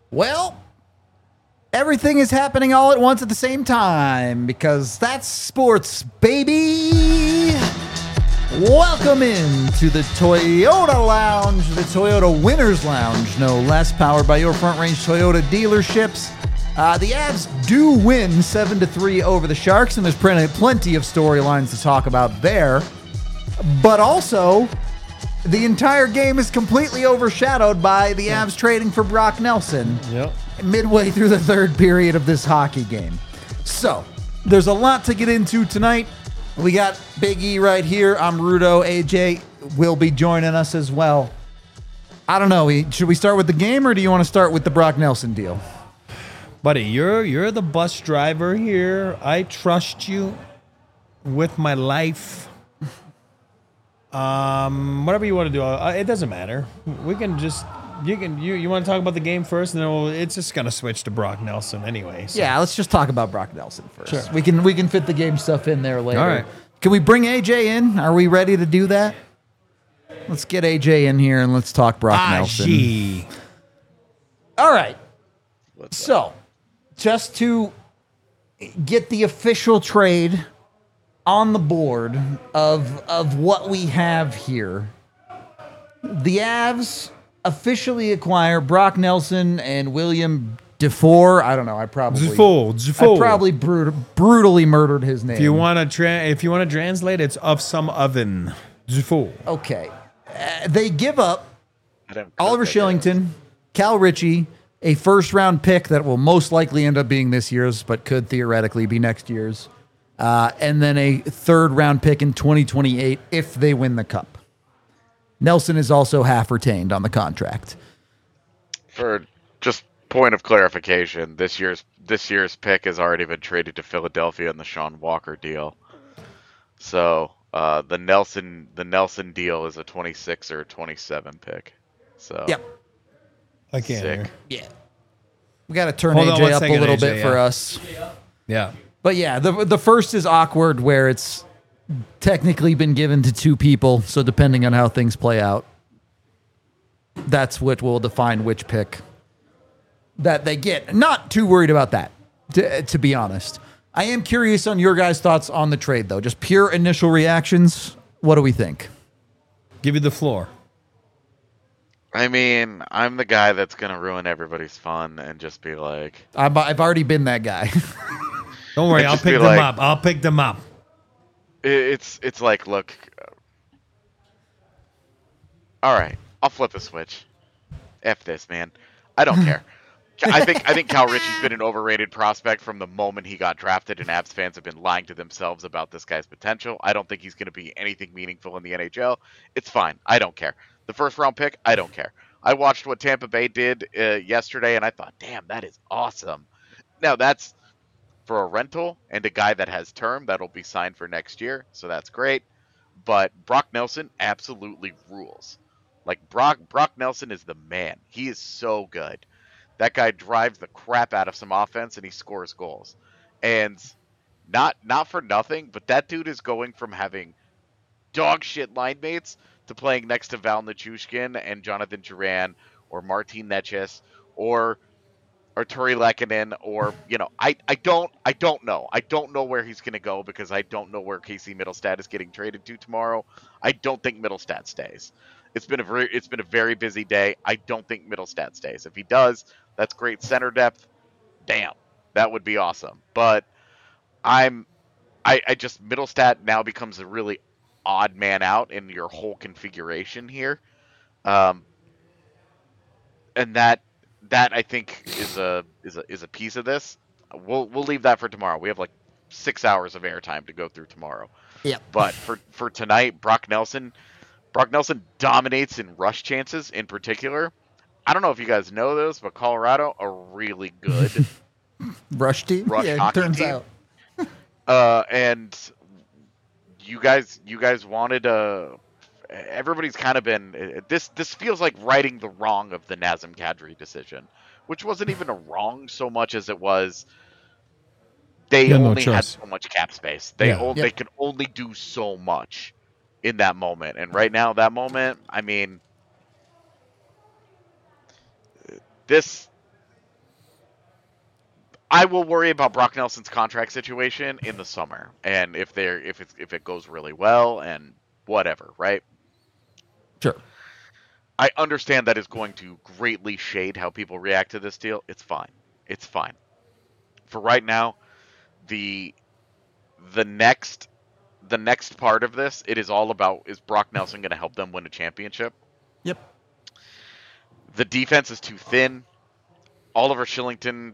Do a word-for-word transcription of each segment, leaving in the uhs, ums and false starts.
Well, everything is happening all at once at the same time because that's sports, baby. Welcome in to the Toyota Lounge, the Toyota Winners Lounge, no less, powered by your Front Range Toyota dealerships. Uh, the Avs do win seven to three over the Sharks, and there's plenty, plenty of storylines to talk about there. But also, the entire game is completely overshadowed by the Avs trading for Brock Nelson. Yep. Midway through the third period of this hockey game. So, there's a lot to get into tonight. We got Big E right here. I'm Rudo. A J will be joining us as well. I don't know. Should we start with the game, or do you want to start with the Brock Nelson deal? Buddy, you're you're the bus driver here. I trust you with my life. Um, whatever you want to do, uh, it doesn't matter. We can just... You can you, you want to talk about the game first, and then we'll, it's just gonna switch to Brock Nelson anyway. So. Yeah, let's just talk about Brock Nelson first. Sure. We can we can fit the game stuff in there later. All right. Can we bring A J in? Are we ready to do that? Let's get A J in here and let's talk Brock Ah, Nelson. gee. All right. So, just to get the official trade on the board of of what we have here, the Avs officially acquire Brock Nelson and William Dufour. I don't know. I probably Dufour, Dufour. I probably brut- brutally murdered his name. If you want to tra- if you want to translate, it's of some oven. Dufour. Okay. Uh, they give up I don't Oliver cook, I guess. Shillington, Cal Ritchie, a first round pick that will most likely end up being this year's, but could theoretically be next year's, uh, and then a third round pick in twenty twenty-eight if they win the cup. Nelson is also half retained on the contract. For just point of clarification, this year's this year's pick has already been traded to Philadelphia in the Sean Walker deal. So uh, the Nelson the Nelson deal is a twenty-six or twenty-seven pick. So Yep. I can't Sick. hear. Yeah. We got to turn Hold on A J one up second, a little A J, bit for yeah. us. Yeah. But yeah, the the first is awkward where it's technically been given to two people, so depending on how things play out, that's what will define which pick that they get. Not too worried about that, to, to be honest. I am curious on your guys' thoughts on the trade, though. Just pure initial reactions. What do we think? Give you the floor. I mean, I'm the guy that's gonna ruin everybody's fun and just be like, I've, I've already been that guy. Don't worry, It'd I'll just be pick them like- up. I'll pick them up. it- it's it's like, look, all right, I'll flip a switch. F this, man. I don't care. I think I think Cal Ritchie's been an overrated prospect from the moment he got drafted, and Avs fans have been lying to themselves about this guy's potential. I don't think he's going to be anything meaningful in the N H L. It's fine. I don't care. The first round pick, I don't care. I watched what Tampa Bay did uh, yesterday, and I thought, damn, that is awesome. Now, that's for a rental and a guy that has term that'll be signed for next year, so that's great. But Brock Nelson absolutely rules. Like, Brock Brock Nelson is the man. He is so good. That guy drives the crap out of some offense, and he scores goals. And not not for nothing, but that dude is going from having dog shit line mates to playing next to Val Nichushkin and Jonathan Duran or Martin Necas or Arturi Lehkonen, or, you know, I, I don't I don't know. I don't know where he's going to go because I don't know where Casey Middlestat is getting traded to tomorrow. I don't think Middlestat stays. It's been a very it's been a very busy day. I don't think Middlestat stays. If he does, that's great center depth. Damn, that would be awesome. But I'm I, I just Middlestat now becomes a really odd man out in your whole configuration here. Um and that That I think is a is a is a piece of this. We'll we'll leave that for tomorrow. We have like six hours of airtime to go through tomorrow. Yep. But for for tonight, Brock Nelson, Brock Nelson dominates in rush chances in particular. I don't know if you guys know this, but Colorado are really good. Rush team? Rush yeah, it hockey turns team. out. uh, and you guys you guys wanted a. Everybody's kind of been this. This feels like righting the wrong of the Nazem Kadri decision, which wasn't even a wrong so much as it was. They Yeah, no only had choice. so much cap space. They Yeah. o- Yep. they could only do so much in that moment, and right now, that moment, I mean, this I will worry about Brock Nelson's contract situation in the summer, and if they're if it's if it goes really well and whatever, right? Sure. I understand that is going to greatly shade how people react to this deal. It's fine. It's fine. For right now, the the next the next part of this, it is all about, is Brock Nelson going to help them win a championship? Yep. The defense is too thin. Oliver Shillington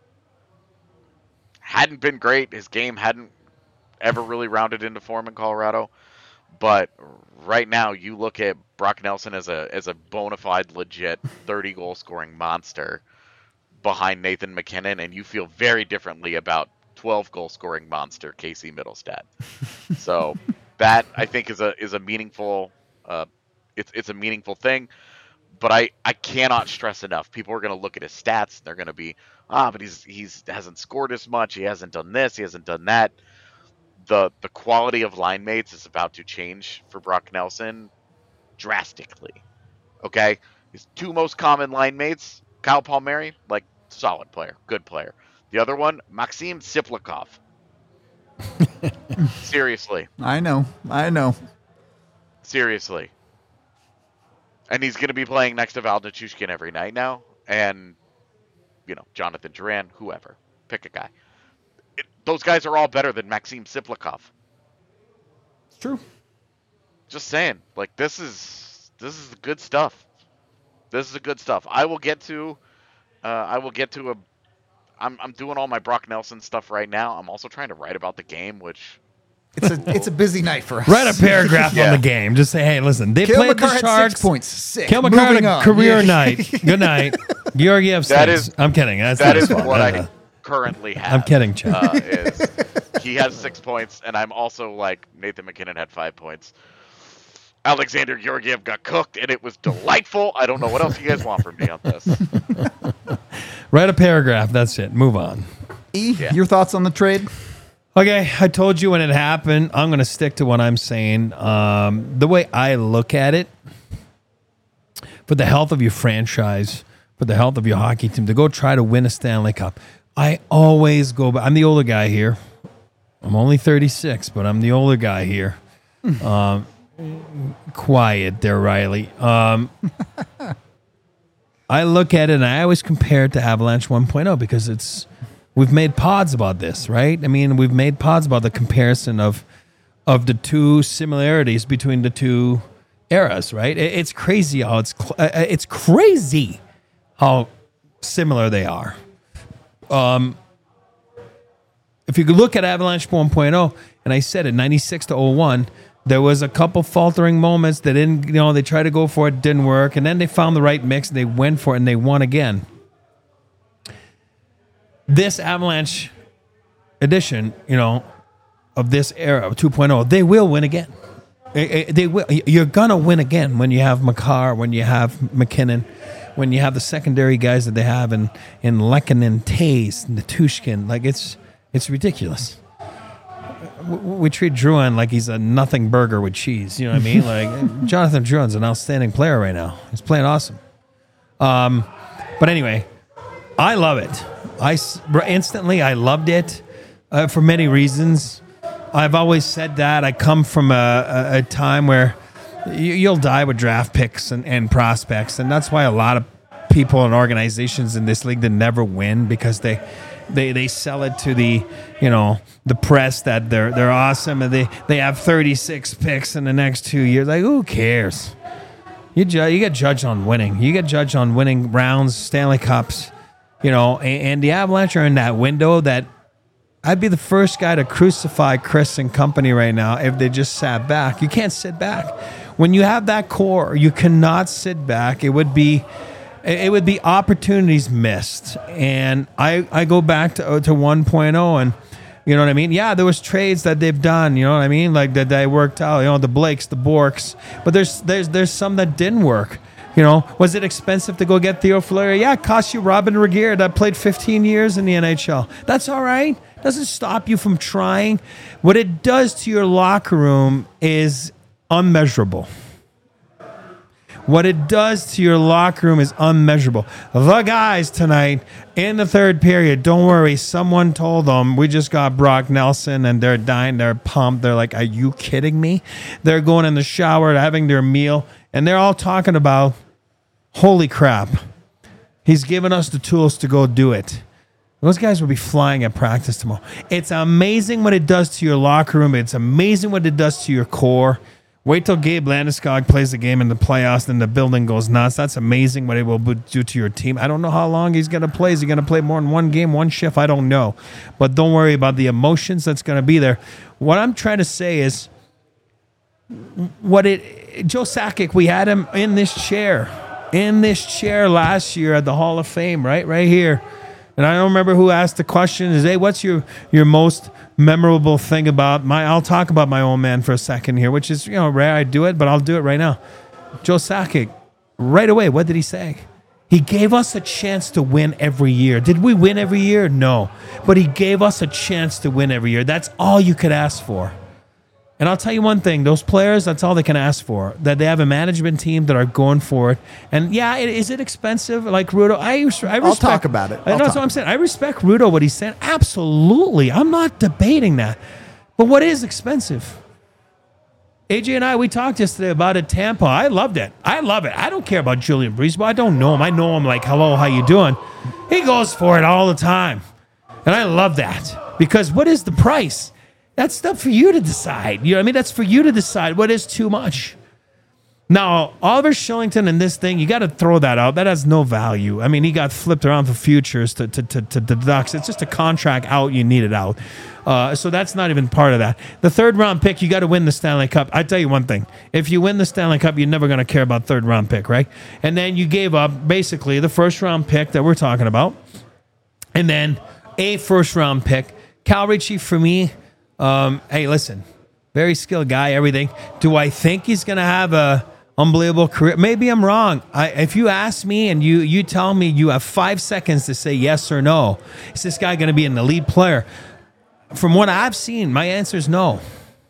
hadn't been great. His game hadn't ever really rounded into form in Colorado. But right now, you look at Brock Nelson as a as a bona fide, legit thirty goal scoring monster behind Nathan MacKinnon, and you feel very differently about twelve goal scoring monster Casey Middlestad. So that, I think, is a is a meaningful uh, it's it's a meaningful thing. But I, I cannot stress enough. People are going to look at his stats. And they're going to be, ah, but he's he's hasn't scored as much. He hasn't done this. He hasn't done that. The the quality of line mates is about to change for Brock Nelson drastically. Okay? His two most common line mates, Kyle Palmieri, like, solid player, good player. The other one, Maxim Siplikov. Seriously. I know. I know. Seriously. And he's going to be playing next to Val Nichushkin every night now. And, you know, Jonathan Duran, whoever. Pick a guy. It, those guys are all better than Maxim Siplikov. It's true. Just saying. Like, this is this is the good stuff. This is the good stuff. I will get to, uh, I will get to a, I'm, I'm doing all my Brock Nelson stuff right now. I'm also trying to write about the game, which... It's a it's a busy night for us. Write a paragraph Yeah. on the game. Just say, hey, listen, they Cale played Makar the had Sharks. six points. Sick. Cale Makar had Moving a on. career Yeah. night. Good night. Georgiev That six. is- I'm kidding. That's That not is his fault. what No, I no. currently have. I'm kidding, Chad. Uh, is he has six points, and I'm also like Nathan MacKinnon had five points. Alexander Georgiev got cooked, and it was delightful. I don't know what else you guys want from me on this. Write a paragraph. That's it. Move on. E, Yeah. your thoughts on the trade? Okay, I told you when it happened. I'm going to stick to what I'm saying. Um, the way I look at it, for the health of your franchise, for the health of your hockey team, to go try to win a Stanley Cup, I always go back. I'm the older guy here. I'm only thirty-six, but I'm the older guy here. Um, quiet there, Riley. Um, I look at it and I always compare it to Avalanche one point oh because it's we've made pods about this, right? I mean, we've made pods about the comparison of of the two similarities between the two eras, right? It, it's crazy how it's cl- uh, it's crazy how similar they are. Um, if you could look at Avalanche one point oh, and I said it, ninety-six to oh one, there was a couple faltering moments that didn't, you know, they tried to go for it, didn't work, and then they found the right mix, and they went for it, and they won again. This Avalanche edition, you know, of this era of two point oh, they will win again. They, they will. You're gonna win again when you have Makar, when you have MacKinnon, when you have the secondary guys that they have in in Lehkonen, Tays, Nichushkin. Like it's it's ridiculous. We, we treat Drouin like he's a nothing burger with cheese. You know what I mean? Like Jonathan Drouin's an outstanding player right now. He's playing awesome. Um, but anyway, I love it. I s- instantly I loved it uh, for many reasons. I've always said that. I come from a, a, a time where you, you'll die with draft picks and, and prospects, and that's why a lot of people and organizations in this league that never win because they, they they sell it to the you know the press that they're they're awesome and they, they have thirty-six picks in the next two years. Like who cares? You ju- you get judged on winning. You get judged on winning rounds, Stanley Cups, you know. And, and the Avalanche are in that window that. I'd be the first guy to crucify Chris and company right now if they just sat back. You can't sit back. When you have that core, you cannot sit back. It would be it would be opportunities missed. And I, I go back to to one point oh and you know what I mean? Yeah, there was trades that they've done, you know what I mean? Like that they worked out, you know, the Blakes, the Borks. But there's there's there's some that didn't work. You know, was it expensive to go get Theo Fleury? Yeah, it cost you Robin Regehr that played fifteen years in the N H L. That's all right. Doesn't stop you from trying. What it does to your locker room is unmeasurable. What it does to your locker room is unmeasurable. The guys tonight in the third period, don't worry, someone told them we just got Brock Nelson and they're dying, they're pumped. They're like, are you kidding me? They're going in the shower, having their meal, and they're all talking about, holy crap, he's given us the tools to go do it. Those guys will be flying at practice tomorrow. It's amazing what it does to your locker room. It's amazing what it does to your core. Wait till Gabe Landeskog plays the game in the playoffs, and the building goes nuts. That's amazing what it will do to your team. I don't know how long he's going to play. Is he going to play more than one game, one shift? I don't know. But don't worry about the emotions that's going to be there. What I'm trying to say is, what it Joe Sakic, we had him in this chair, in this chair last year at the Hall of Fame, right, right here. And I don't remember who asked the question. Is, hey, what's your, your most memorable thing about my, I'll talk about my old man for a second here, which is, you know, rare I do it, but I'll do it right now. Joe Sakic, right away, what did he say? He gave us a chance to win every year. Did we win every year? No. But he gave us a chance to win every year. That's all you could ask for. And I'll tell you one thing, those players, that's all they can ask for, that they have a management team that are going for it. And yeah, it, is it expensive? Like Rudo, I, I respect. I'll talk about it. I'll that's what I'm saying. I respect Rudo, what he's saying. Absolutely. I'm not debating that. But what is expensive? A J and I, we talked yesterday about it, Tampa. I loved it. I love it. I don't care about Julian Breezeball. I don't know him. I know him like, hello, how you doing? He goes for it all the time. And I love that. Because what is the price? That's stuff for you to decide. You know what I mean? That's for you to decide what is too much. Now, Oliver Shillington and this thing, you got to throw that out. That has no value. I mean, he got flipped around for futures to, to, to, to the Ducks. It's just a contract out. You need it out. Uh, so that's not even part of that. The third round pick, you got to win the Stanley Cup. I tell you one thing. If you win the Stanley Cup, you're never going to care about third round pick, right? And then you gave up basically the first round pick that we're talking about. And then a first round pick. Cal Ritchie, for me, Um, hey, listen, very skilled guy, everything. Do I think he's going to have a unbelievable career? Maybe I'm wrong. I, if you ask me and you, you tell me you have five seconds to say yes or no, is this guy going to be an elite player? From what I've seen, my answer is no.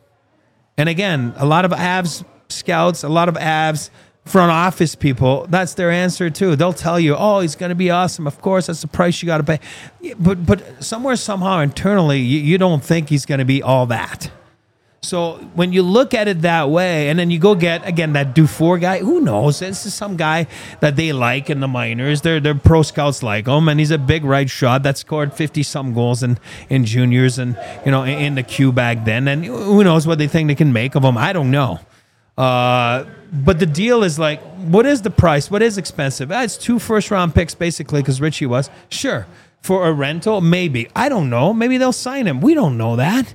And again, a lot of Avs scouts, a lot of Avs front office people, that's their answer too. They'll tell you, oh, he's going to be awesome. Of course, that's the price you got to pay. But but somewhere, somehow, internally, you, you don't think he's going to be all that. So when you look at it that way, and then you go get, again, that Dufour guy, who knows? This is some guy that they like in the minors. Their their pro scouts like him, and he's a big right shot that scored fifty-some goals in, in juniors and, you know, in, in the Q back then. And who knows what they think they can make of him. I don't know. Uh, but the deal is like, what is the price? What is expensive? Ah, it's two first-round picks, basically, because Richie was. Sure. For a rental, maybe. I don't know. Maybe they'll sign him. We don't know that.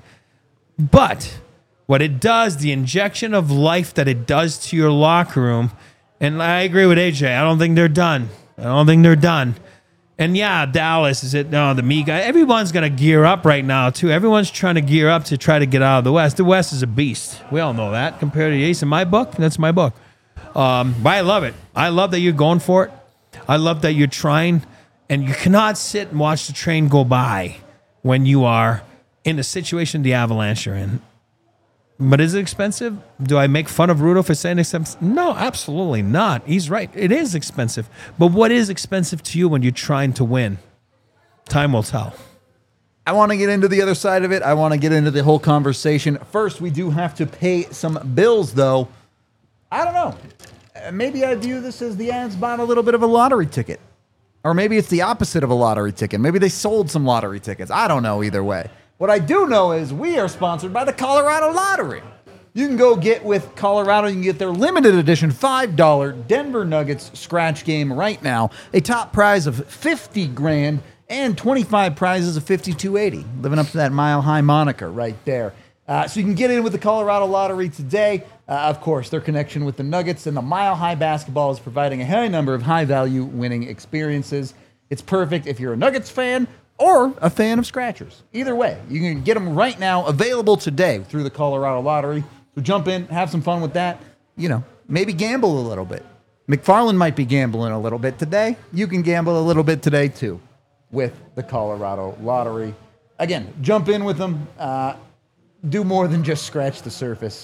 But what it does, the injection of life that it does to your locker room, and I agree with A J. I don't think they're done. I don't think they're done. And yeah, Dallas, is it? No, the me guy. Everyone's going to gear up right now, too. Everyone's trying to gear up to try to get out of the West. The West is a beast. We all know that. Compared to the East, in my book, that's my book. Um, but I love it. I love that you're going for it. I love that you're trying. And you cannot sit and watch the train go by when you are in the situation the Avalanche are in. But is it expensive? Do I make fun of Rudo for saying expensive? No, absolutely not. He's right. It is expensive. But what is expensive to you when you're trying to win? Time will tell. I want to get into the other side of it. I want to get into the whole conversation. First, we do have to pay some bills, though. I don't know. Uh, Maybe I view this as the Avs bought a little bit of a lottery ticket. Or maybe it's the opposite of a lottery ticket. Maybe they sold some lottery tickets. I don't know either way. What I do know is we are sponsored by the Colorado Lottery. You can go get with Colorado. You can get their limited edition five dollar Denver Nuggets scratch game right now. A top prize of fifty grand and twenty-five prizes of fifty-two eighty. Living up to that mile high moniker right there. Uh, so you can get in with the Colorado Lottery today. Uh, of course, their connection with the Nuggets and the Mile High Basketball is providing a high number of high-value winning experiences. It's perfect if you're a Nuggets fan or a fan of scratchers. Either way, you can get them right now, available today through the Colorado Lottery. So jump in, have some fun with that. You know, maybe gamble a little bit. McFarland might be gambling a little bit today. You can gamble a little bit today, too, with the Colorado Lottery. Again, jump in with them. Uh, do more than just scratch the surface.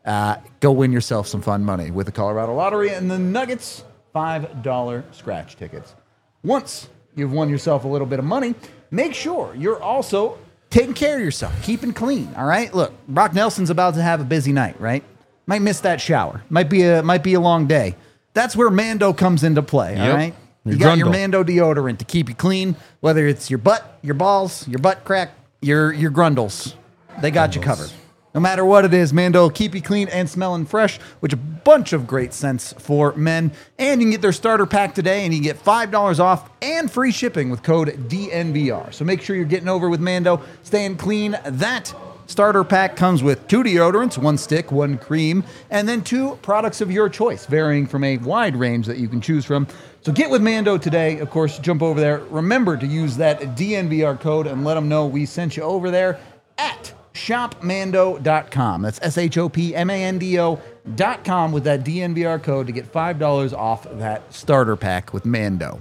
Uh, go win yourself some fun money with the Colorado Lottery and the Nuggets five dollar scratch tickets. Once you've won yourself a little bit of money, make sure you're also taking care of yourself, keeping clean, all right? Look, Brock Nelson's about to have a busy night, right? Might miss that shower. Might be a might be a long day. That's where Mando comes into play, all Yep. right? You Your got your grundle. Mando deodorant to keep you clean, whether it's your butt, your balls, your butt crack, your your grundles. They got you covered. No matter what it is, Mando will keep you clean and smelling fresh, which a bunch of great scents for men. And you can get their starter pack today, and you can get five dollars off and free shipping with code D N V R. So make sure you're getting over with Mando, staying clean. That starter pack comes with two deodorants, one stick, one cream, and then two products of your choice, varying from a wide range that you can choose from. So get with Mando today. Of course, jump over there. Remember to use that D N V R code and let them know we sent you over there at shop mando dot com. That's S H O P M A N D O dot com with that D N V R code to get five dollars off that starter pack with Mando.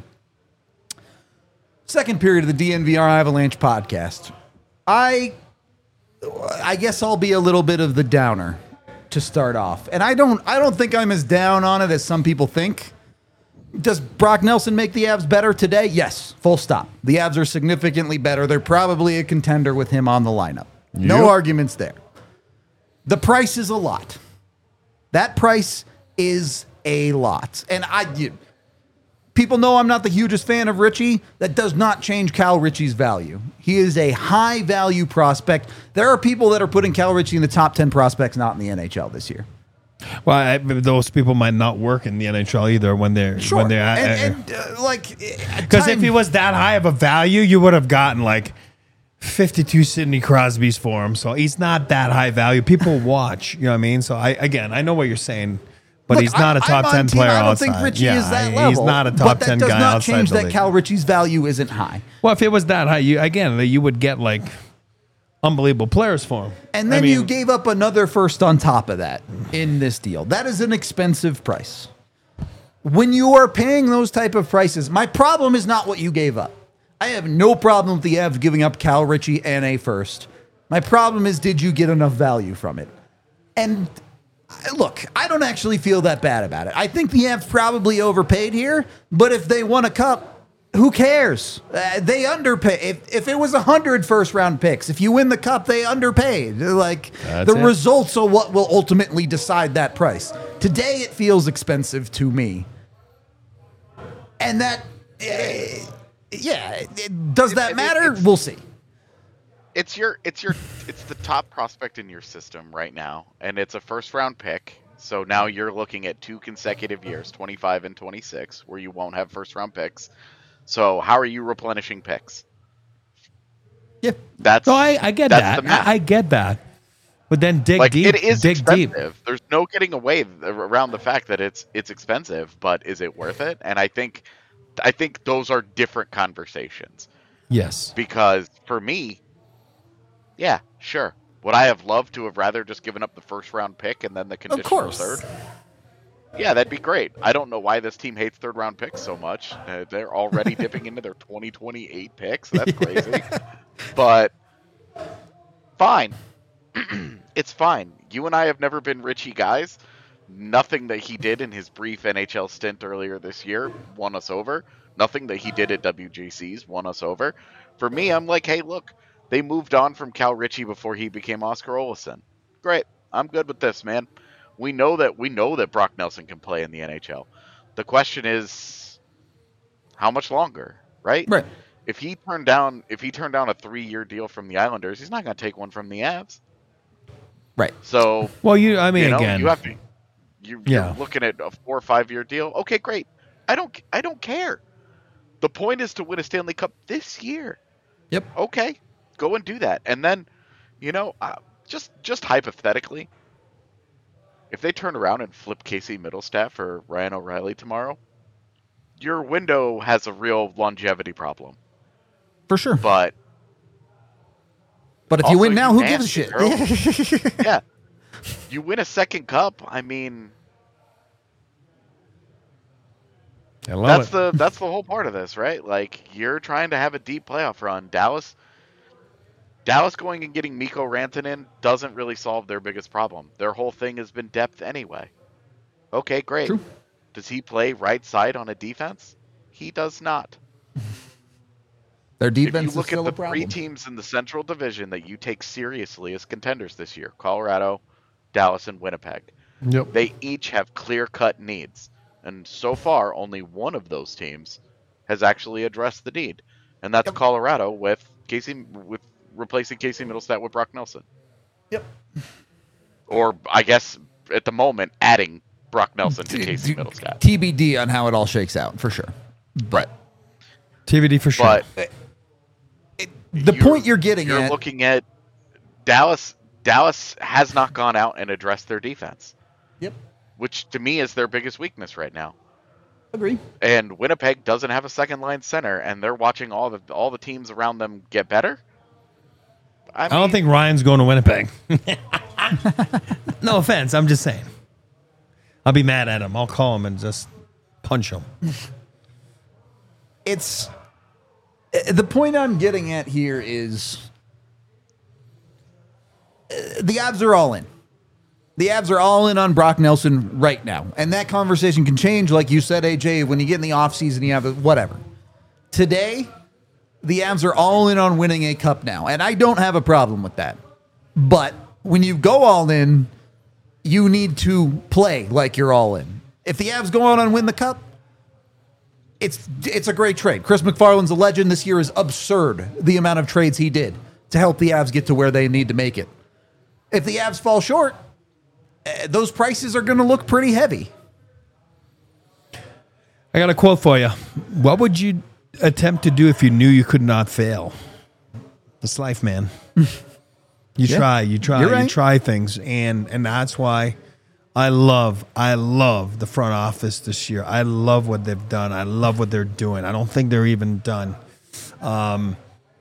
Second period of the D N V R Avalanche podcast. I I guess I'll be a little bit of the downer to start off. And I don't I don't think I'm as down on it as some people think. Does Brock Nelson make the Avs better today? Yes, full stop. The Avs are significantly better. They're probably a contender with him on the lineup. No Yep. arguments there. The price is a lot. That price is a lot. And I you, people know I'm not the hugest fan of Richie. That does not change Cal Ritchie's value. He is a high value prospect. There are people that are putting Cal Ritchie in the top ten prospects not in the N H L this year. Well, I, those people might not work in the N H L either when they're Sure. when they're and, and uh, like because if he was that high of a value, you would have gotten like fifty-two Sidney Crosby's for him. So he's not that high value. People watch, you know what I mean? So I again, I know what you're saying, but Look, he's not a I- top I'm ten on team. player I don't outside. think Richie yeah, is that he's level. not a but top that ten does guy not outside change the that league. Cal Ritchie's value isn't high. Well, if it was that high, you again, you would get like unbelievable players for him. And then I mean, you gave up another first on top of that in this deal. That is an expensive price. When you are paying those type of prices, my problem is not what you gave up. I have no problem with the Avs giving up Cal Ritchie and a first. My problem is, did you get enough value from it? And I- look, I don't actually feel that bad about it. I think the Avs probably overpaid here, but if they won a cup, who cares? Uh, they underpay. If, if it was one hundred first round picks, if you win the cup, they underpaid. Like, That's the it. results are what will ultimately decide that price. Today, it feels expensive to me. And that, uh, yeah, it- does that I mean, matter? it's- We'll see. It's your it's your it's the top prospect in your system right now, and it's a first round pick. So now you're looking at two consecutive years, twenty-five and twenty-six, where you won't have first round picks. So how are you replenishing picks? Yeah. That's no, I, I get that's that. the math. I, I get that. But then dig like deep. it is dig deep. expensive. There's no getting away th- around the fact that it's it's expensive, but is it worth it? And I think I think those are different conversations. Yes. Because for me, yeah, sure. Would I have loved to have rather just given up the first round pick and then the conditional course. third? Yeah, that'd be great. I don't know why this team hates third round picks so much. Uh, they're already dipping into their twenty twenty-eight picks. That's crazy. But fine. It's fine. You and I have never been Richie guys. Nothing that he did in his brief N H L stint earlier this year won us over. Nothing that he did at W G Cs won us over. For me, I'm like, hey, look, they moved on from Cal Ritchie before he became Oscar Olesen. Great. I'm good with this, man. We know that we know that Brock Nelson can play in the N H L. The question is, how much longer, right? Right. If he turned down if he turned down a three-year deal from the Islanders, he's not going to take one from the Avs. Right. So, Well, you. I mean, you know, again. you have to. You, Yeah. You're looking at a four or five-year deal. Okay, great. I don't. I don't care. The point is to win a Stanley Cup this year. Yep. Okay, go and do that, and then, you know, uh, just just hypothetically, if they turn around and flip Casey Middlestaff for Ryan O'Reilly tomorrow, your window has a real longevity problem. For sure. But But if you also, win now, who you gives a shit? nasty, yeah, you win a second cup. I mean, I love that's it. the that's the whole part of this, right? Like, you're trying to have a deep playoff run. Dallas, Dallas going and getting Mikko Rantanen doesn't really solve their biggest problem. Their whole thing has been depth anyway. Okay, great. True. Does he play right side on a defense? He does not. Their If defense you is look still at a the problem. three teams in the Central Division that you take seriously as contenders this year, Colorado, Dallas, and Winnipeg, Yep. they each have clear-cut needs. And so far, only one of those teams has actually addressed the need. And that's Yep. Colorado with Casey with replacing Casey Middlestat with Brock Nelson. Yep. Or I guess at the moment adding Brock Nelson to Casey Middlestat. T B D on how it all shakes out, for sure. But T V D for sure. But the point you're getting you're at, looking at Dallas. Dallas has not gone out and addressed their defense, yep, which to me is their biggest weakness right now. agree. And Winnipeg doesn't have a second line center, and they're watching all the all the teams around them get better. I, I don't mean, think Ryan's going to Winnipeg. No offense. I'm just saying. I'll be mad at him. I'll call him and just punch him. It's the point I'm getting at here is uh, the Avs are all in. The Avs are all in on Brock Nelson right now. And that conversation can change, like you said, A J, when you get in the offseason, you have a, whatever. Today, the Avs are all in on winning a cup now. And I don't have a problem with that. But when you go all in, you need to play like you're all in. If the Avs go on and win the cup, it's it's a great trade. Chris McFarland's a legend. This year is absurd, the amount of trades he did to help the Avs get to where they need to make it. If the Avs fall short, uh, those prices are going to look pretty heavy. I got a quote for you. What would you attempt to do if you knew you could not fail? It's life, man. You Yeah, try, you try, you're right. you try things, and and that's why I love, I love the front office this year. I love what they've done. I love what they're doing. I don't think they're even done. Um,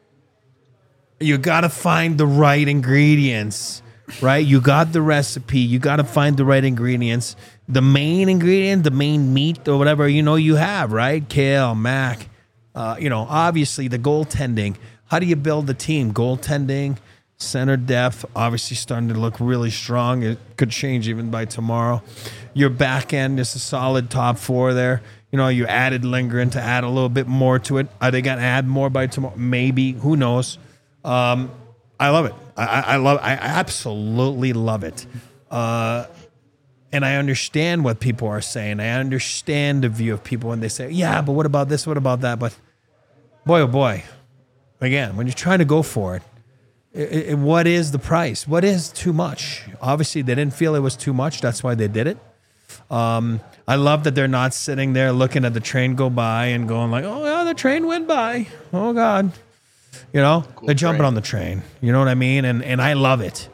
you got to find the right ingredients, right? You got the recipe. You got to find the right ingredients. The main ingredient, the main meat or whatever, you know, you have, right? Kale, mac, uh, you know, obviously the goaltending. How do you build the team? Goaltending, center depth, obviously starting to look really strong. It could change even by tomorrow. Your back end is a solid top four there. You know, you added Lindgren to add a little bit more to it. Are they going to add more by tomorrow? Maybe. Who knows? Um, I love it. I, I I love. I absolutely love it. Uh, and I understand what people are saying. I understand the view of people when they say, "Yeah, but what about this? What about that?" But boy, oh boy, again, when you're trying to go for it, it, it what is the price? What is too much? Obviously, they didn't feel it was too much. That's why they did it. Um, I love that they're not sitting there looking at the train go by and going like, "Oh, yeah, the train went by. Oh God." You know, Cool they're jumping train. on the train. You know what I mean? And and I love it.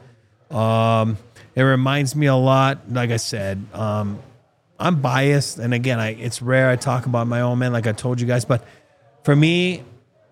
Um, it reminds me a lot. Like I said, um, I'm biased, and again, I it's rare I talk about my own man, like I told you guys. But for me,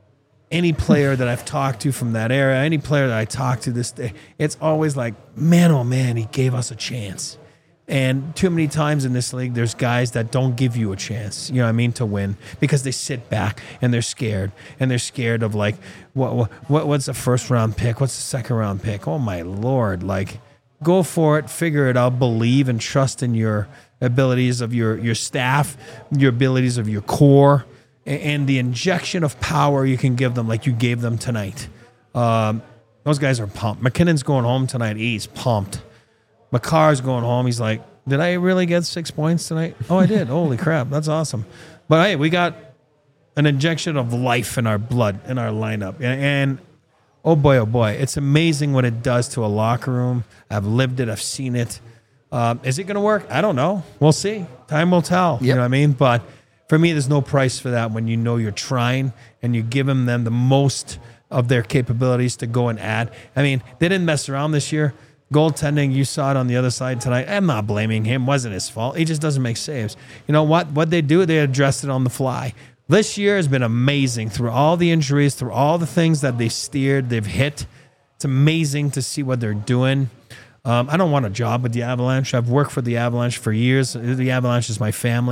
any player that I've talked to from that era, any player that I talk to this day, it's always like, man, oh man, he gave us a chance. And too many times in this league, there's guys that don't give you a chance, you know what I mean, to win because they sit back and they're scared. And they're scared of like, what, what what's the first round pick? What's the second round pick? Oh, my Lord. Like, go for it, figure it out, believe and trust in your abilities of your, your staff, your abilities of your core, and, and the injection of power you can give them like you gave them tonight. Um, those guys are pumped. McKinnon's going home tonight. He's pumped. McCarr's going home. He's like, did I really get six points tonight? Oh, I did. Holy crap. That's awesome. But hey, we got an injection of life in our blood, in our lineup. And, and oh boy, oh boy, it's amazing what it does to a locker room. I've lived it. I've seen it. Um, is it going to work? I don't know. We'll see. Time will tell. You Yep. know what I mean? But for me, there's no price for that when you know you're trying and you're giving them the most of their capabilities to go and add. I mean, they didn't mess around this year. Goaltending, you saw it on the other side tonight. I'm not blaming him. Wasn't his fault. He just doesn't make saves. You know what? What they do, they addressed it on the fly. This year has been amazing through all the injuries, through all the things that they've steered, they've hit. It's amazing to see what they're doing. Um, I don't want a job with the Avalanche. I've worked for the Avalanche for years. The Avalanche is my family.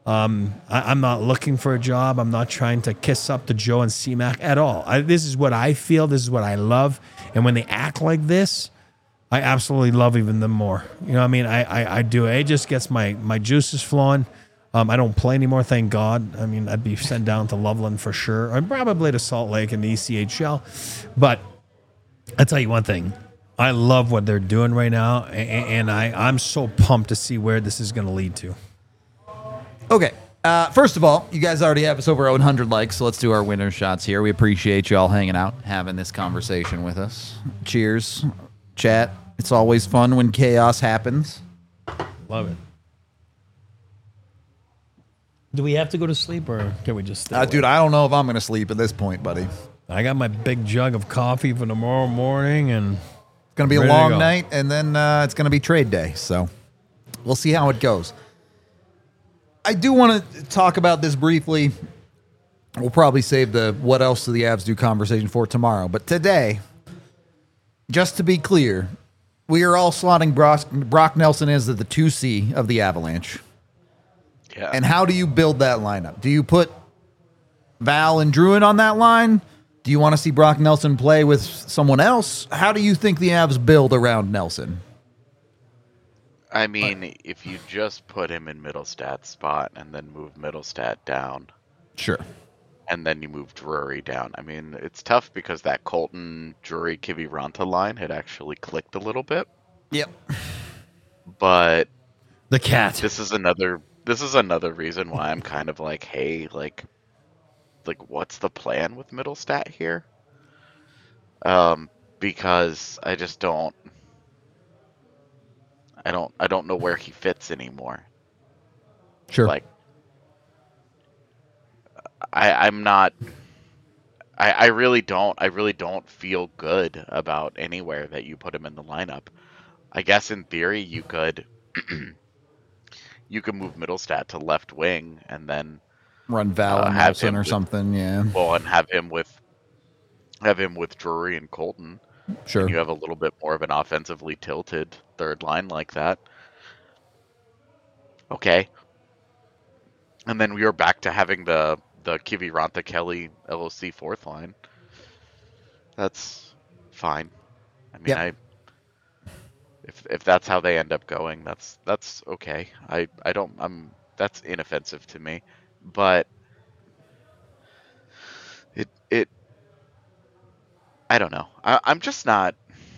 Um, I, I'm not looking for a job. I'm not trying to kiss up to Joe and C-Mac at all. I, this is what I feel. This is what I love. And when they act like this, I absolutely love even them more. You know what I mean? I, I, I do. It just gets my, my juices flowing. Um, I don't play anymore, thank God. I mean, I'd be sent down to Loveland for sure. Or probably to Salt Lake in the E C H L. But I'll tell you one thing. I love what they're doing right now. And, and I, I'm so pumped to see where this is going to lead to. Okay. Uh, first of all, you guys already have us over one hundred likes, so let's do our winner shots here. We appreciate you all hanging out, having this conversation with us. Cheers, chat. It's always fun when chaos happens. Love it. Do we have to go to sleep, or can we just stay Uh, dude, I don't know if I'm going to sleep at this point, buddy. It's I got my big jug of coffee for tomorrow morning, and going to be a Ready to long go. night, and then uh, it's going to be trade day, so we'll see how it goes. I do want to talk about this briefly. We'll probably save the what else do the Avs do conversation for tomorrow. But today, just to be clear, we are all slotting Brock, Brock Nelson as the two C of the Avalanche. Yeah. And how do you build that lineup? Do you put Val and Druin on that line? Do you want to see Brock Nelson play with someone else? How do you think the Avs build around Nelson? I mean, if you just put him in Middlestad's spot and then move Middlestad down, Sure. and then you move Drury down. I mean, it's tough because that Colton, Drury, Kiviranta line had actually clicked a little bit. Yep. But the cat. this is another this is another reason why I'm kind of like, hey, like like what's the plan with Middlestat here? Um, because I just don't I don't I don't know where he fits anymore. Sure. Like I I'm not I I really don't I really don't feel good about anywhere that you put him in the lineup. I guess in theory you could you could move Middlestat to left wing and then Run Val uh, and have Nelson him or with- something. Yeah. well and have him with have him with Drury and Colton. Sure. And you have a little bit more of an offensively tilted third line like that. Okay. And then we are back to having the the Kiviranta Kelly L O C fourth line. That's fine. I mean, Yep. I if if that's how they end up going, that's that's okay. I I don't I'm that's inoffensive to me, but it it I don't know. I, I'm just not.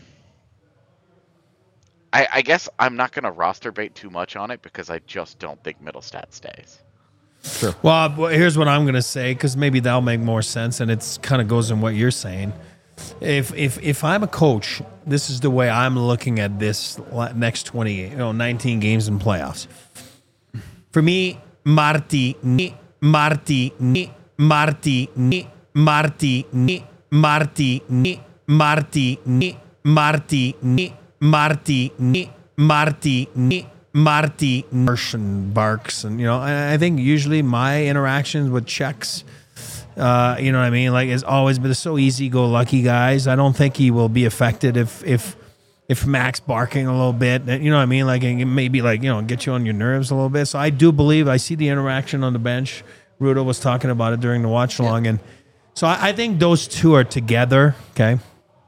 I, I guess I'm not going to roster bait too much on it because I just don't think Middlestat stays. Sure. Well, well, here's what I'm going to say, because maybe that'll make more sense, and it's kind of goes in what you're saying. If if if I'm a coach, this is the way I'm looking at this la- next twenty, you know, nineteen games in playoffs. For me, Marty, ni, Marty, ni, Marty, ni, Marty, ni, Marty, ni, Marty, ni, Marty, ni, Marty, ni, Marty, ni, Marty, and barks, and you know, I I think usually my interactions with checks, uh, you know what I mean, like, it's always been so easy-go-lucky guys. I don't think he will be affected if if if Max barking a little bit, you know what I mean, like, it maybe like, you know, get you on your nerves a little bit. So I do believe I see the interaction on the bench. Rudo was talking about it during the watch along, and so I, I think those two are together, okay.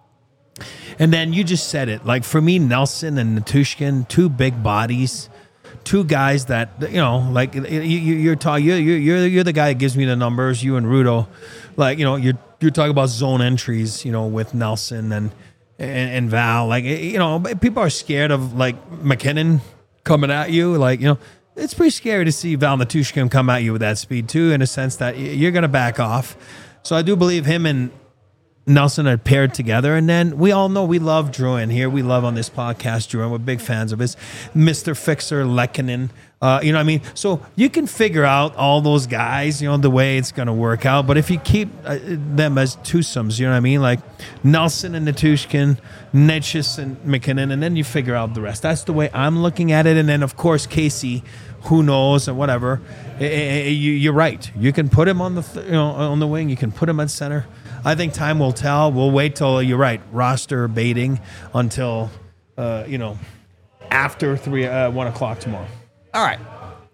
And then you just said it. Like, for me, Nelson and Natushkin, two big bodies, two guys that, you know, like, you, you, you're talking, you're, you're, you're the guy that gives me the numbers, you and Rudo. Like, you know, you're, you're talking about zone entries, you know, with Nelson and, and, and Val. Like, you know, people are scared of, like, McKinnon coming at you. Like, you know, it's pretty scary to see Val Natushkin come at you with that speed, too, in a sense that you're going to back off. So I do believe him and Nelson are paired together. And then we all know we love Druin here. We love on this podcast Druin. We're big fans of his. Mister Fixer, Lehkonen. Uh, you know what I mean? So you can figure out all those guys, you know, the way it's going to work out. But if you keep uh, them as twosomes, you know what I mean? Like Nelson and Natushkin, Netchis and McKinnon, and then you figure out the rest. That's the way I'm looking at it. And then, of course, Casey, who knows, and whatever. Eh, eh, eh, you- You're right. You can put him on the th- you know on the wing. You can put him at center. I think time will tell. We'll wait till, you're right, roster baiting until, uh, you know, after three, uh, one o'clock tomorrow. All right.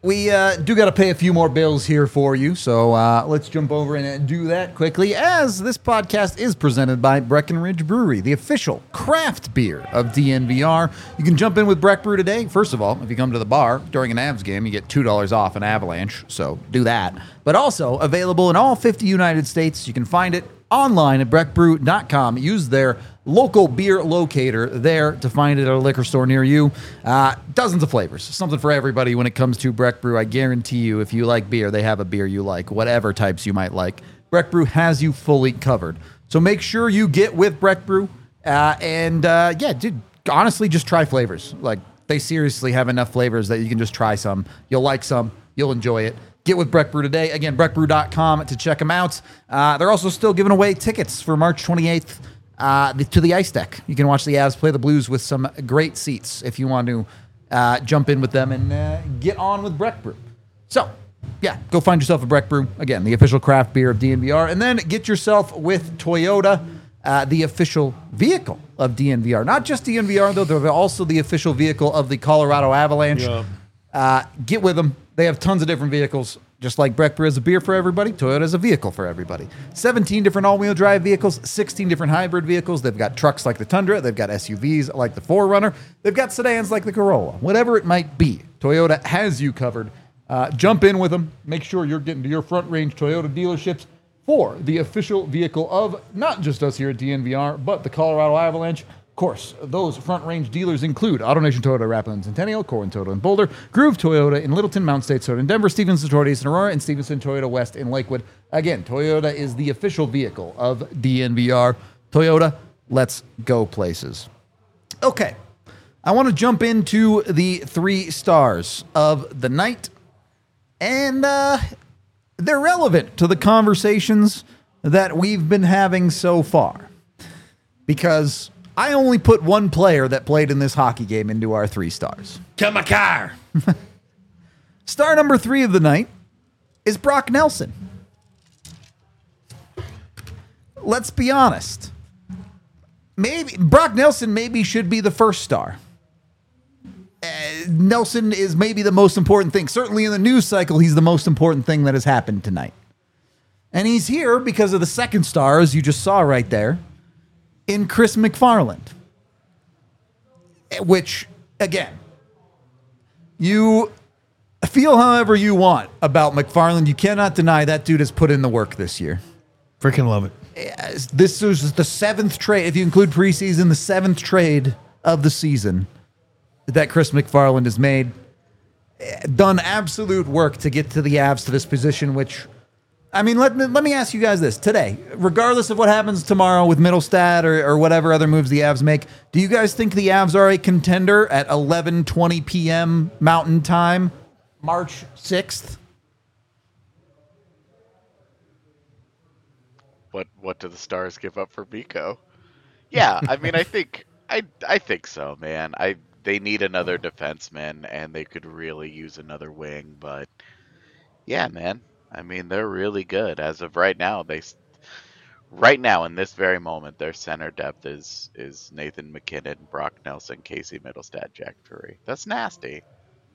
We uh, do got to pay a few more bills here for you, so uh, let's jump over and do that quickly, as this podcast is presented by Breckenridge Brewery, the official craft beer of D N V R. You can jump in with Breck Brew today. First of all, if you come to the bar during an Avs game, you get two dollars off an Avalanche, so do that. But also available in all fifty United States. You can find it online at breck brew dot com. Use their local beer locator there to find it at a liquor store near you. Uh, dozens of flavors. Something for everybody when it comes to Breck Brew. I guarantee you, if you like beer, they have a beer you like, whatever types you might like. Breck Brew has you fully covered. So make sure you get with Breck Brew. Uh, and uh, yeah, dude, honestly, just try flavors. Like, they seriously have enough flavors that you can just try some. You'll like some. You'll enjoy it. Get with Breck Brew today. Again, breck brew dot com to check them out. Uh, they're also still giving away tickets for March twenty-eighth uh, the, to the Ice Deck. You can watch the Avs play the Blues with some great seats if you want to uh, jump in with them and uh, get on with Breck Brew. So, yeah, go find yourself a Breck Brew. Again, the official craft beer of D N V R. And then get yourself with Toyota, uh, the official vehicle of D N V R. Not just D N V R, though. They're also the official vehicle of the Colorado Avalanche. Yeah. Uh, get with them. They have tons of different vehicles. Just like Breck Brew is a beer for everybody, Toyota is a vehicle for everybody. seventeen different all-wheel drive vehicles, sixteen different hybrid vehicles. They've got trucks like the Tundra. They've got S U Vs like the four runner. They've got sedans like the Corolla. Whatever it might be, Toyota has you covered. Uh, jump in with them. Make sure you're getting to your front-range Toyota dealerships for the official vehicle of not just us here at D N V R, but the Colorado Avalanche. Of course, those front-range dealers include AutoNation Toyota, Rapid Centennial, Corwin Toyota in Boulder, Groove Toyota in Littleton, Mountain State Toyota in Denver, Stevenson Toyota East in Aurora, and Stevenson Toyota West in Lakewood. Again, Toyota is the official vehicle of D N V R. Toyota, let's go places. Okay, I want to jump into the three stars of the night, and uh, they're relevant to the conversations that we've been having so far, because I only put one player that played in this hockey game into our three stars. Kamakar. Star number three of the night is Brock Nelson. Let's be honest. Maybe Brock Nelson maybe should be the first star. Uh, Nelson is maybe the most important thing. Certainly in the news cycle, he's the most important thing that has happened tonight. And he's here because of the second star, as you just saw right there, in Chris McFarland. Which, again, you feel however you want about McFarland. You cannot deny that dude has put in the work this year. Freaking love it. This is the seventh trade, if you include preseason, the seventh trade of the season that Chris McFarland has made. Done absolute work to get to the Avs to this position, which, I mean, let me, let me ask you guys this. Today, regardless of what happens tomorrow with Middlestad or, or whatever other moves the Avs make, do you guys think the Avs are a contender at eleven twenty p.m. Mountain Time, March sixth? What what do the Stars give up for Mikko? Yeah, I mean, I think I I think so, man. I they need another defenseman, and they could really use another wing. But yeah, man. I mean, they're really good as of right now. They, right now in this very moment, their center depth is is Nathan MacKinnon, Brock Nelson, Casey Middlestad, Jack Drury. That's nasty.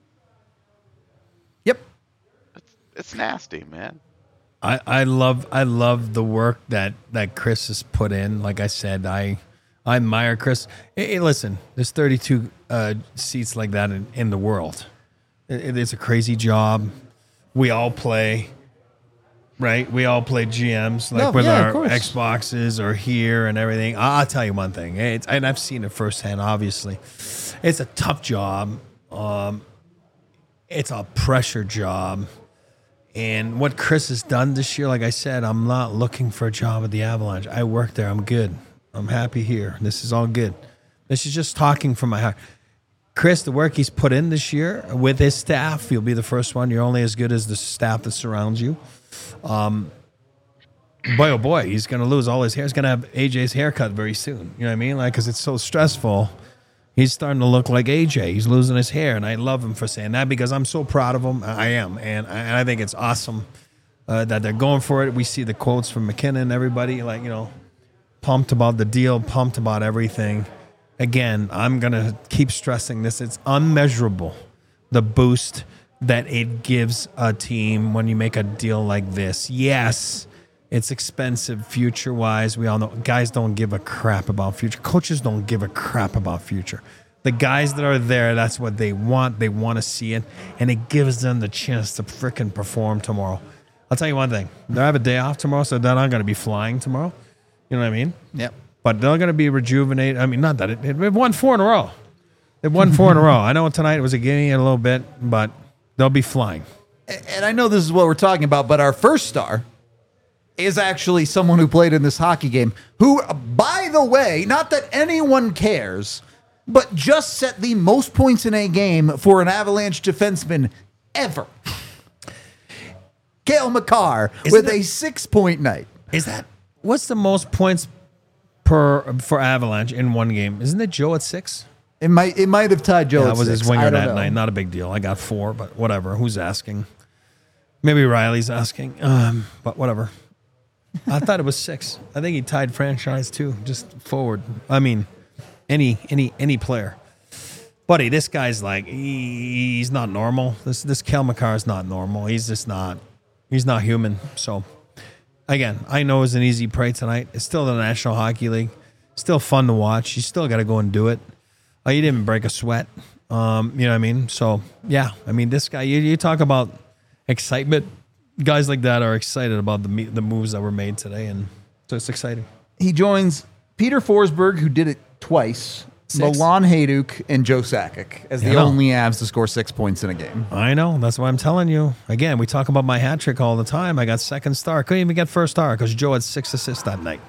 Yep, it's, it's nasty, man. I, I love I love the work that, that Chris has put in. Like I said, I I admire Chris. Hey, hey, listen, there's thirty-two uh, seats like that in, in the world. It, it is a crazy job. We all play. Right, we all play G Ms like no, with yeah, our Xboxes or here and everything. I'll tell you one thing, it's, and I've seen it firsthand. Obviously, it's a tough job. Um, it's a pressure job, and what Chris has done this year, like I said, I'm not looking for a job at the Avalanche. I work there. I'm good. I'm happy here. This is all good. This is just talking from my heart. Chris, the work he's put in this year with his staff, you'll be the first one. You're only as good as the staff that surrounds you. Um, boy, oh boy, he's going to lose all his hair. He's going to have A J's haircut very soon. You know what I mean? Like, because it's so stressful. He's starting to look like A J. He's losing his hair, and I love him for saying that because I'm so proud of him. I am, and I, and I think it's awesome uh, that they're going for it. We see the quotes from MacKinnon, everybody, like, you know, pumped about the deal, pumped about everything. Again, I'm going to keep stressing this. It's unmeasurable, the boost that it gives a team when you make a deal like this. Yes, it's expensive future-wise. We all know guys don't give a crap about future. Coaches don't give a crap about future. The guys that are there, that's what they want. They want to see it, and it gives them the chance to frickin' perform tomorrow. I'll tell you one thing. They have a day off tomorrow, so they're not going to be flying tomorrow. You know what I mean? Yep. But they're going to be rejuvenated. I mean, not that it, it, they've won four in a row. They've won four in a row. I know tonight was a gimme a little bit, but they'll be flying. And I know this is what we're talking about, but our first star is actually someone who played in this hockey game, who, by the way, not that anyone cares, but just set the most points in a game for an Avalanche defenseman ever. Cale Makar with that- a six-point night. Is that what's the most points per for Avalanche in one game? Isn't it Joe at six? It might it might have tied Joe. That at was six. his I winger don't that know. night. Not a big deal. I got four, but whatever. Who's asking? Maybe Riley's asking. Um, but whatever. I thought it was six. I think he tied franchise too, just forward. I mean, any any any player. Buddy, this guy's like he, he's not normal. This this Cale Makar is not normal. He's just not. He's not human. So again, I know it's an easy prey tonight. It's still the National Hockey League. Still fun to watch. You still got to go and do it. Oh, you didn't break a sweat. Um, you know what I mean? So, yeah. I mean, this guy, you, you talk about excitement. Guys like that are excited about the me- the moves that were made today, and so it's exciting. He joins Peter Forsberg, who did it twice, Six. Milan Hajduk, and Joe Sakic as Yeah, the I know. only Avs to score six points in a game. I know. That's why I'm telling you. Again, we talk about my hat trick all the time. I got second star. Couldn't even get first star because Joe had six assists that night.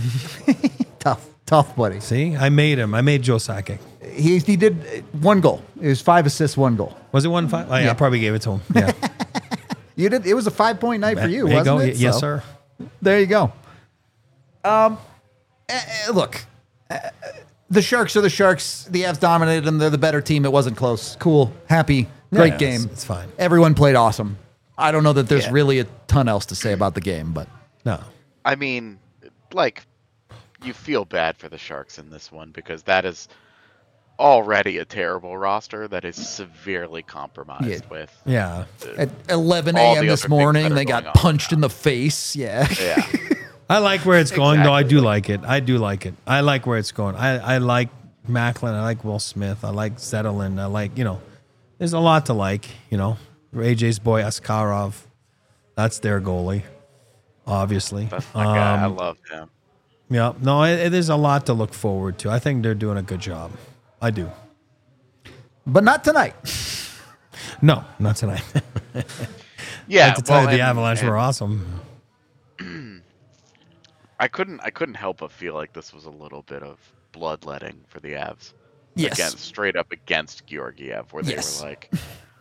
Tough, tough, buddy. See? I made him. I made Joe Sakic. He he did one goal. It was five assists, one goal. Was it one five? Oh, yeah, Yeah. I probably gave it to him. Yeah. You did. It was a five point night for you, there you wasn't go. it? Yes, So, sir. There you go. Um, eh, eh, look, eh, the Sharks are the Sharks. The Avs dominated them. They're the better team. It wasn't close. Cool, happy, great Yeah, game. it's- it's fine. Everyone played awesome. I don't know that there's Yeah. really a ton else to say about the game, but No. I mean, like, you feel bad for the Sharks in this one because that is already a terrible roster that is severely compromised Yeah. with. Yeah. at eleven All a.m. the this other things morning, that are they going got on punched now. in the face. Yeah. Yeah. I like where it's going, though. I do Exactly. like it. I do like it. I like where it's going. I, I like Macklin. I like Will Smith. I like Zetterlund. I like, you know, there's a lot to like, you know. A J's boy, Askarov. That's their goalie, obviously. That's my guy. I Um, love him. Yeah. No, it, it is a lot to look forward to. I think they're doing a good job. I do. But not tonight. No, not tonight. Yeah. I have to tell well, you, the and- Avalanche and were awesome. I couldn't. I couldn't help but feel like this was a little bit of bloodletting for the Avs. Yes. Against, straight up against Georgiev, where they Yes. were like,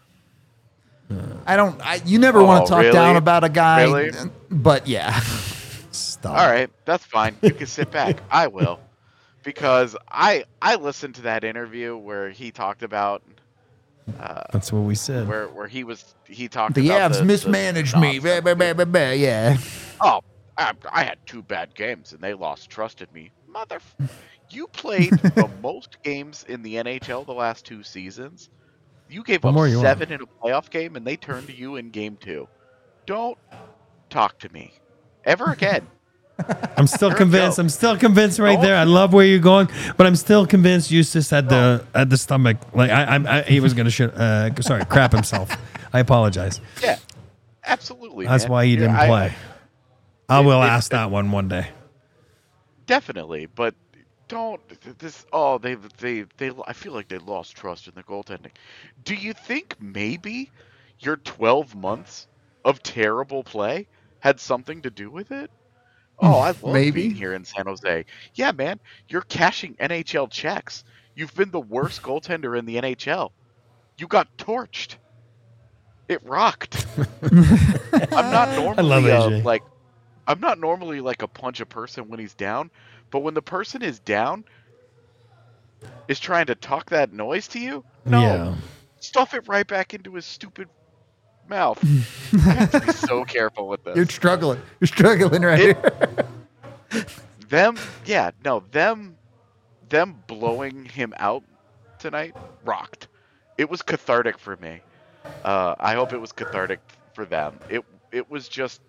I don't. I, you never Oh, want to talk really? down about a guy, Really? but yeah. Stop. "All right, that's fine. You can sit back. I will," because I I listened to that interview where he talked about uh, That's what we said. where where he was he talked The about Avs the, mismanaged the me. Bah, bah, bah, bah, bah, yeah. Oh, I, I had two bad games and they lost trust in me. Mother, you played the most games in the N H L the last two seasons. You gave What up more you want? seven in a playoff game and they turned to you in game two. Don't talk to me ever again. I'm still You're a convinced. joke. I'm still convinced right Don't- there. I love where you're going, but I'm still convinced Eustace had the had the stomach. Like I, I, I he was gonna shit. Uh, sorry, crap himself. I apologize. Yeah, absolutely. That's man. why he Yeah, didn't I- play. I, it- will it- ask that one one day. Definitely, but don't this. Oh, they they they. I feel like they lost trust in the goaltending. Do you think maybe your twelve months of terrible play had something to do with it? Oh, I love Maybe. being here in San Jose. Yeah, man, you're cashing N H L checks. You've been the worst goaltender in the N H L. You got torched. It rocked. I'm not normally love a, A J. like I'm not normally like a punch a person when he's down, but when the person is down is trying to talk that noise to you, no. Yeah. Stuff it right back into his stupid mouth. You have to be so careful with this. You're struggling. You're struggling right It- here. Them, yeah, no, them, them blowing him out tonight rocked. It was cathartic for me Uh, I hope it was cathartic for them. It it was just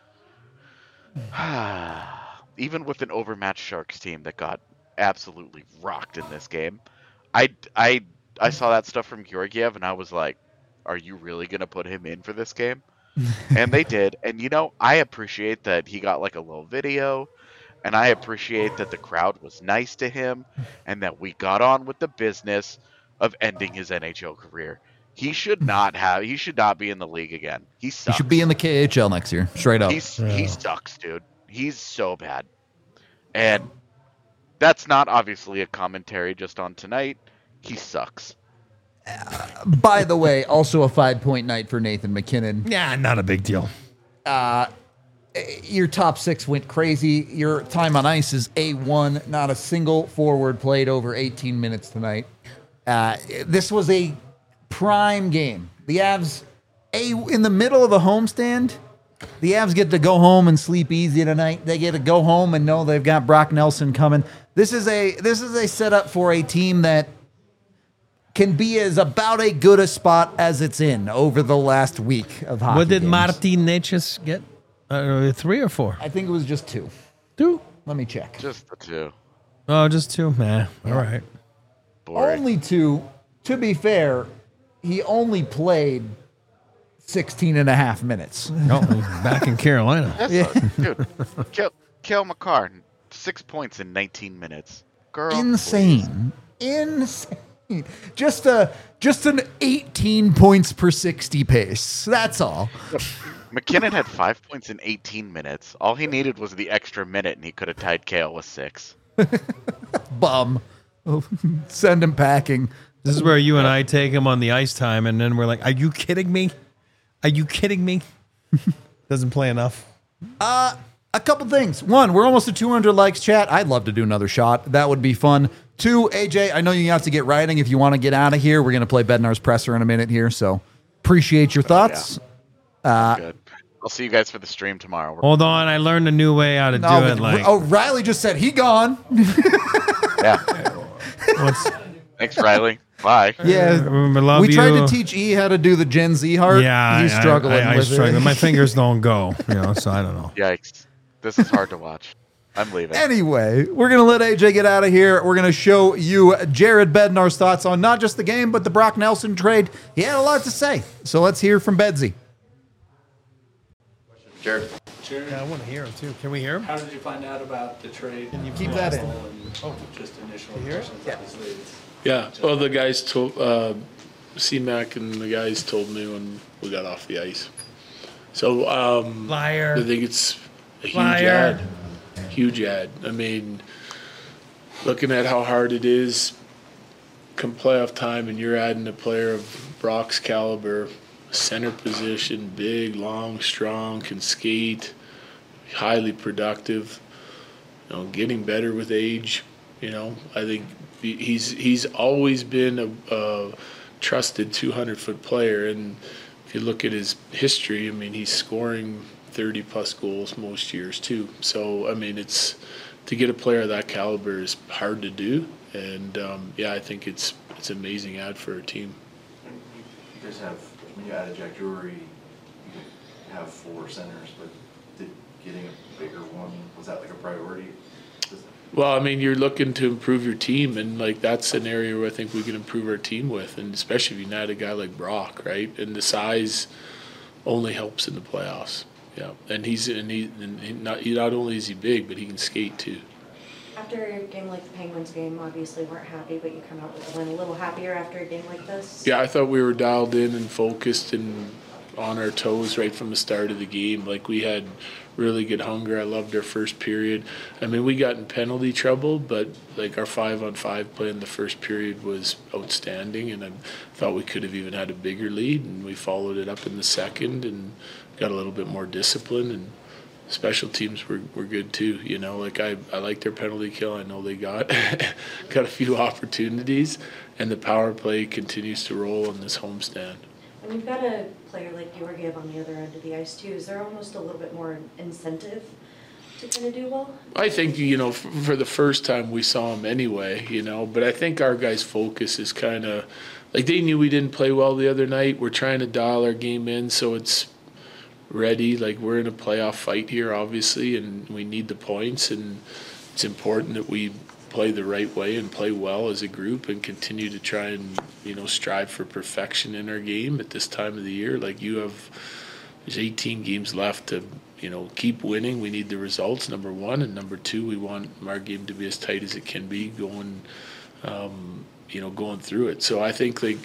even with an overmatched Sharks team that got absolutely rocked in this game. I I I saw that stuff from Georgiev and I was like, are you really gonna put him in for this game? And they did. And you know, I appreciate that he got like a little video. And I appreciate that the crowd was nice to him and that we got on with the business of ending his N H L career. He should not have he should not be in the league again. He He sucks. should be in the K H L next year, straight up. He's Yeah. he sucks, dude. He's so bad. And that's not obviously a commentary just on tonight. He sucks. By the way, also a five-point night for Nathan McKinnon. Yeah, not a big deal. Your top six went crazy. Your time on ice is A one. Not a single forward played over eighteen minutes tonight. Uh, this was a prime game. The Avs, a in the middle of a homestand, the Avs get to go home and sleep easy tonight. They get to go home and know they've got Brock Nelson coming. This is a this is a setup for a team that can be as about a good a spot as it's in over the last week of hockey. What did games. Martin Necas get? Uh, three or four? I think it was just two. Two? Let me check. Just the two. Oh, just two? Nah. All right. Boring. Only two. To be fair, he only played sixteen and a half minutes. Oh, he's back in Carolina. That's Yeah. a- dude, kill kill McCarr. Six points in nineteen minminutes. Girl. Insane. Insane. Just a just an eighteen points per sixty pace. That's all. please. McKinnon had five points in eighteen minutes. All he needed was the extra minute, and he could have tied Kale with six. Bum. Send him packing. This is where you and I take him on the ice time, and then we're like, are you kidding me? Are you kidding me? Doesn't play enough. A couple things. One, we're almost at two hundred likes, chat. I'd love to do another shot. That would be fun. Two, A J, I know you have to get writing. If you want to get out of here, we're going to play Bednar's presser in a minute here. So appreciate your thoughts. Good. I'll see you guys for the stream tomorrow. We're- Hold on, I learned a new way how to do Oh, it. Like, oh, Riley just said he gone. Yeah. what's, Thanks, Riley. Bye. Yeah. I love We tried you. to teach E how to do the Gen Z heart. Yeah, He's I- struggling I, I, I with struggle. it. My fingers don't go, you know. So I don't know. Yikes. This is hard to watch. I'm leaving. Anyway, we're going to let A J get out of here. We're going to show you Jared Bednar's thoughts on not just the game, but the Brock Nelson trade. He had a lot to say. So let's hear from Bedsy. Jared. Jared, Yeah, I want to hear him too. Can we hear him? how did you find out about the trade? Can you keep that in? Oh, just initial hear it? impressions, obviously. It's- Yeah. Well, the guys told uh, C Mac and the guys told me when we got off the ice. So um, Liar. I think it's a huge Liar. ad. Huge ad. I mean, looking at how hard it is, come playoff time, and you're adding a player of Brock's caliber, center position, big, long, strong, can skate, highly productive. You know, getting better with age. You know, I think he- he's he's always been a, a trusted two hundred foot player, and if you look at his history, I mean, he's scoring thirty plus goals most years too. So I mean, it's to get a player of that caliber is hard to do, and um, yeah, I think it's it's an amazing ad for a team. You guys have, when you added Jack Drury, you have four centers, but did getting a bigger one, was that like a priority? Does- Well, I mean, you're looking to improve your team, and like that's an area where I think we can improve our team with, and especially if you add a guy like Brock, right? And the size only helps in the playoffs. Yeah, and he's and he, and he not he not only is he big, but he can skate too. After a game like the Penguins game, obviously weren't happy, but you come out with a win a little happier after a game like this. Yeah, I thought we were dialed in and focused and on our toes right from the start of the game. Like we had really good hunger. I loved our first period. I mean, we got in penalty trouble, but like our five on five play in the first period was outstanding, and I thought we could have even had a bigger lead, and we followed it up in the second and got a little bit more discipline, and special teams were, were good too. You know, like I, I like their penalty kill. I know they got got a few opportunities, and the power play continues to roll in this homestand. And we've got a player like Georgiev on the other end of the ice too. Is there almost a little bit more incentive to kind of do well? I think, you know, for, for the first time we saw him anyway, you know, but I think our guys' focus is kind of like they knew we didn't play well the other night. We're trying to dial our game in so it's ready. Like we're in a playoff fight here, obviously, and we need the points, and it's important that we play the right way and play well as a group and continue to try and, you know, strive for perfection in our game at this time of the year. Like you have, there's eighteen games left to, you know, keep winning. We need the results, number one, and number two, we want our game to be as tight as it can be going, um, you know, going through it. So I think like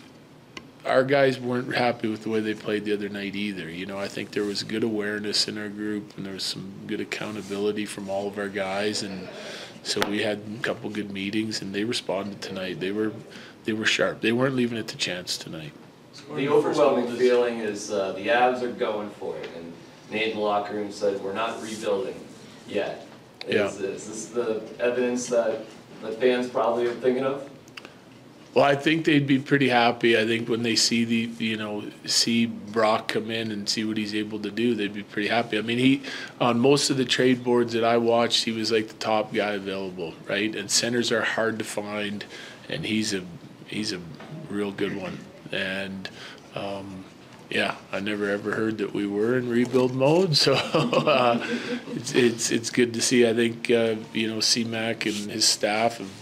our guys weren't happy with the way they played the other night either. You know, I think there was good awareness in our group and there was some good accountability from all of our guys, and so we had a couple good meetings and they responded tonight. They were they were sharp. They weren't leaving it to chance tonight. The overwhelming feeling is uh, the Avs are going for it, and Nate in the locker room said we're not rebuilding yet. Is, Yeah. is this the evidence that the fans probably are thinking of? Well, I think they'd be pretty happy. I think when they see the, you know, see Brock come in and see what he's able to do, they'd be pretty happy. I mean, he, on most of the trade boards that I watched, he was like the top guy available, right? And centers are hard to find, and he's a, he's a real good one. And, um, yeah, I never ever heard that we were in rebuild mode, so uh, it's, it's it's good to see. I think, uh, you know, C-Mac and his staff have,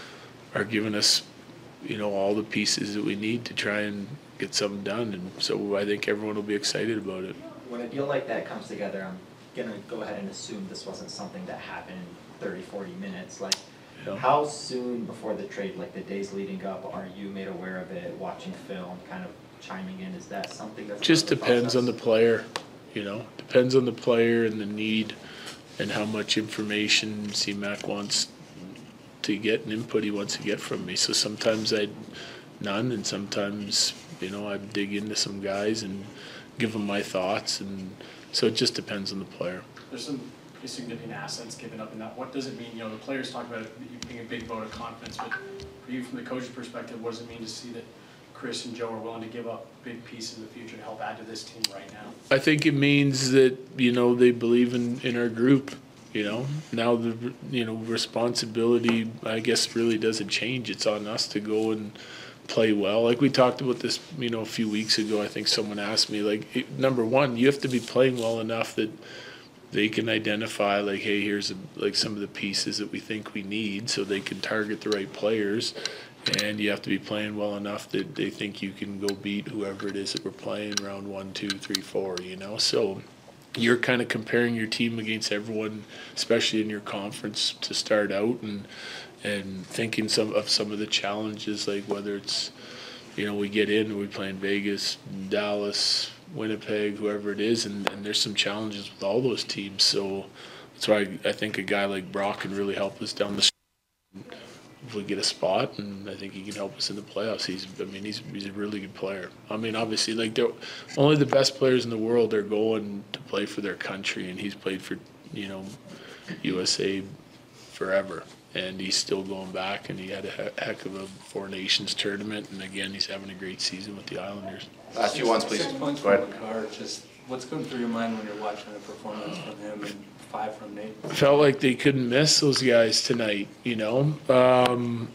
are giving us, you know, all the pieces that we need to try and get something done, and so I think everyone will be excited about it. When a deal like that comes together, I'm gonna go ahead and assume this wasn't something that happened in thirty, forty minutes. Like, Yeah. how soon before the trade, like the days leading up, are you made aware of it, watching film, kind of chiming in? Is that something that's Just part of the depends on the process? player, you know, depends on the player and the need and how much information C-Mac wants to get and input he wants to get from me. So sometimes I'd none, and sometimes, you know, I'd dig into some guys and give them my thoughts, and so it just depends on the player. There's some pretty significant assets given up in that. What does it mean? You know, the players talk about it being a big vote of confidence, but for you, from the coach's perspective, what does it mean to see that Chris and Joe are willing to give up big pieces in the future to help add to this team right now? I think it means that, you know, they believe in, in our group, you know. Now the, you know, responsibility, I guess, really doesn't change. It's on us to go and play well. Like we talked about this, you know, a few weeks ago. I think someone asked me, like, it, number one, you have to be playing well enough that they can identify, like, hey, here's a, like some of the pieces that we think we need, so they can target the right players. And you have to be playing well enough that they think you can go beat whoever it is that we're playing round one, two, three, four, you know. So you're kind of comparing your team against everyone, especially in your conference to start out, and and thinking some of some of the challenges, like whether it's, you know, we get in and we play in Vegas, Dallas, Winnipeg, whoever it is, and, and there's some challenges with all those teams. So that's why I, I think a guy like Brock can really help us down the stretch if we get a spot, and I think he can help us in the playoffs. He's, I mean, he's he's a really good player. I mean, obviously, like they're, only the best players in the world are going to play for their country, and he's played for, you know, U S A forever, and he's still going back, and he had a he- heck of a Four Nations tournament, and again, he's having a great season with the Islanders. Last few ones, please. Six points Go from ahead. Makar, just what's going through your mind when you're watching a performance from him and five from Nate? Felt like they couldn't miss those guys tonight, you know. Um,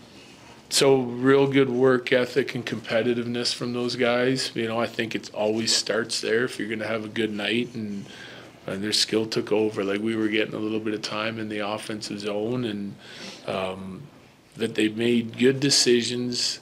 so real good work ethic and competitiveness from those guys. You know, I think it always starts there if you're going to have a good night, and, and their skill took over. Like we were getting a little bit of time in the offensive zone, and um, that they made good decisions.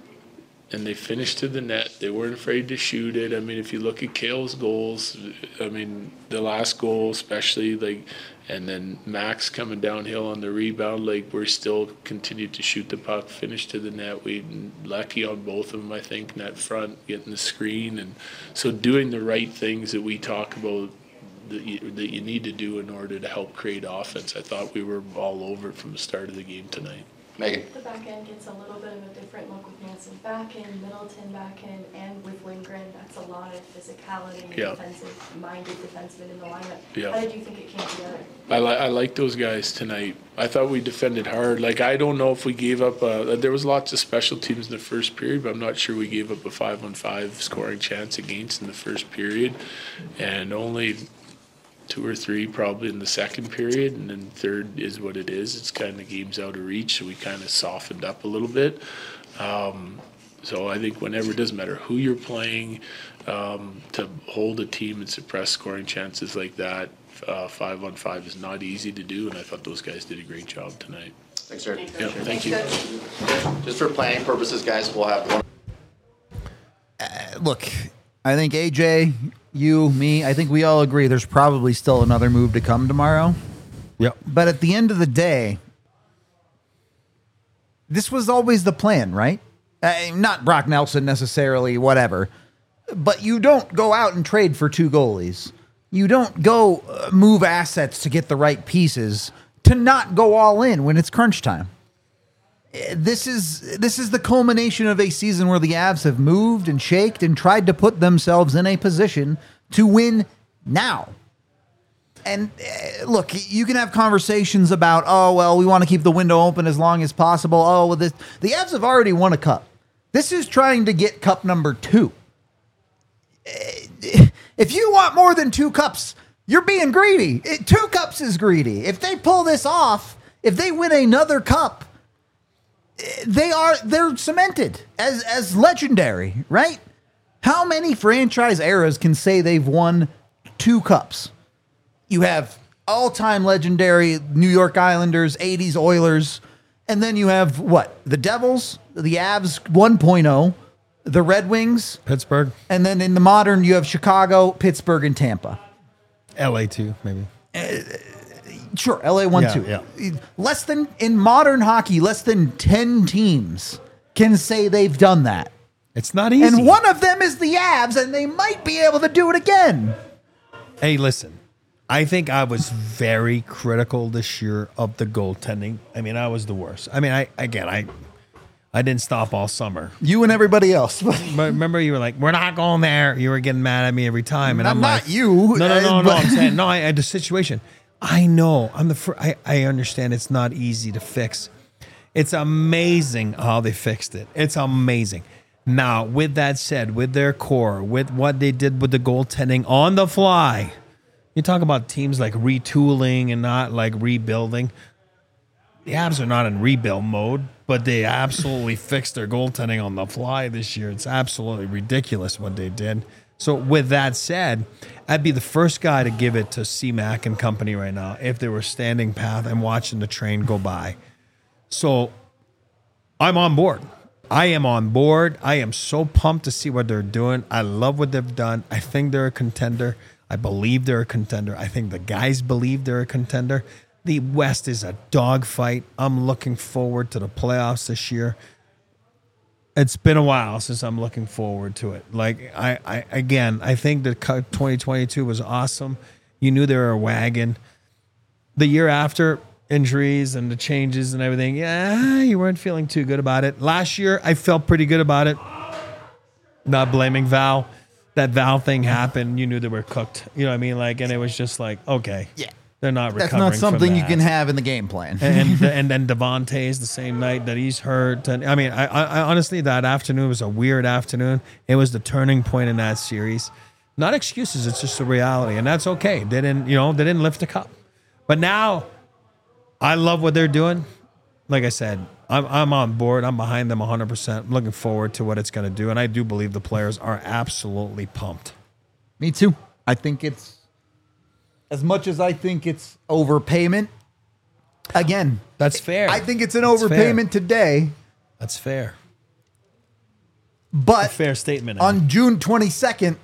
And they finished to the net. They weren't afraid to shoot it. I mean, if you look at Kale's goals, I mean, the last goal especially, like, and then Max coming downhill on the rebound, like, we're still continued to shoot the puck, finish to the net. We lucky on both of them, I think, net front, getting the screen. And so doing the right things that we talk about that you, that you need to do in order to help create offense. I thought we were all over it from the start of the game tonight. Megan. The back end gets a little bit of a different look with Manson back end, Middleton back end, and with Lindgren. That's a lot of physicality, Yeah. defensive-minded defensemen in the lineup. Yeah. How did you think it came together? I like I like those guys tonight. I thought we defended hard. Like, I don't know if we gave up a, there was lots of special teams in the first period, but I'm not sure we gave up a five on five scoring chance against in the first period, and only two or three probably in the second period, and then third is what it is. It's kind of games out of reach, so we kind of softened up a little bit. Um, So I think whenever, it doesn't matter who you're playing, um, to hold a team and suppress scoring chances like that, uh, five on five is not easy to do, and I thought those guys did a great job tonight. Thanks, sir. Yeah, thank you. Just for planning purposes, guys, we'll have one. Uh, look, I think A J, you, me, I think we all agree there's probably still another move to come tomorrow. Yep. But at the end of the day, this was always the plan, right? Uh, not Brock Nelson necessarily, whatever. But you don't go out and trade for two goalies. You don't go uh, move assets to get the right pieces to not go all in when it's crunch time. Uh, This is this is the culmination of a season where the Avs have moved and shaked and tried to put themselves in a position to win now. And uh, look, you can have conversations about, oh, well, we want to keep the window open as long as possible. Oh, well, this, the Avs have already won a cup. This is trying to get cup number two. Uh, If you want more than two cups, you're being greedy. It, two cups is greedy. If they pull this off, if they win another cup, eh, they are they're cemented as as legendary, right? How many franchise eras can say they've won two cups? You have all-time legendary New York Islanders, eighties Oilers, and then you have what? The Devils, the Avs one point oh, the Red Wings, Pittsburgh, and then in the modern you have Chicago, Pittsburgh, and Tampa. L A too, maybe. Sure, L A one Yeah, two. yeah. Less than in modern hockey, less than ten teams can say they've done that. It's not easy. And one of them is the Avs, and they might be able to do it again. Hey, listen. I think I was very critical this year of the goaltending. I mean, I was the worst. I mean, I again, I I didn't stop all summer. You and everybody else. But remember, you were like, "We're not going there." You were getting mad at me every time, and I'm I'm not like, you. No, no, no, uh, no. but- I'm saying no. I had the situation. I know. I'm the. Fir- I I understand. It's not easy to fix. It's amazing how they fixed it. It's amazing. Now, with that said, with their core, with what they did with the goaltending on the fly, you talk about teams like retooling and not like rebuilding. The Avs are not in rebuild mode, but they absolutely fixed their goaltending on the fly this year. It's absolutely ridiculous what they did. So with that said, I'd be the first guy to give it to C-Mac and company right now if they were standing path and watching the train go by. So I'm on board. I am on board. I am so pumped to see what they're doing. I love what they've done. I think they're a contender. I believe they're a contender. I think the guys believe they're a contender. The West is a dogfight. I'm looking forward to the playoffs this year. It's been a while since I'm looking forward to it. Like, I, I again, I think that twenty twenty-two was awesome. You knew they were a wagon. The year after, injuries and the changes and everything, yeah, you weren't feeling too good about it. Last year, I felt pretty good about it. Not blaming Val. That Val thing happened. You knew they were cooked. You know what I mean? Like, and it was just like, okay. Yeah. They're not That's recovering not something from you that. can have in the game plan. and and then Devontae's the same night that he's hurt. And I mean, I, I, I honestly, that afternoon was a weird afternoon. It was the turning point in that series. Not excuses. It's just a reality, and that's okay. They didn't, you know, they didn't lift the cup. But now, I love what they're doing. Like I said, I'm I'm on board. I'm behind them one hundred percent. I'm looking forward to what it's going to do, and I do believe the players are absolutely pumped. Me too. I think it's, as much as I think it's overpayment, again, That's fair. I think it's an That's overpayment fair. today, That's fair. but A fair statement. on June twenty-second,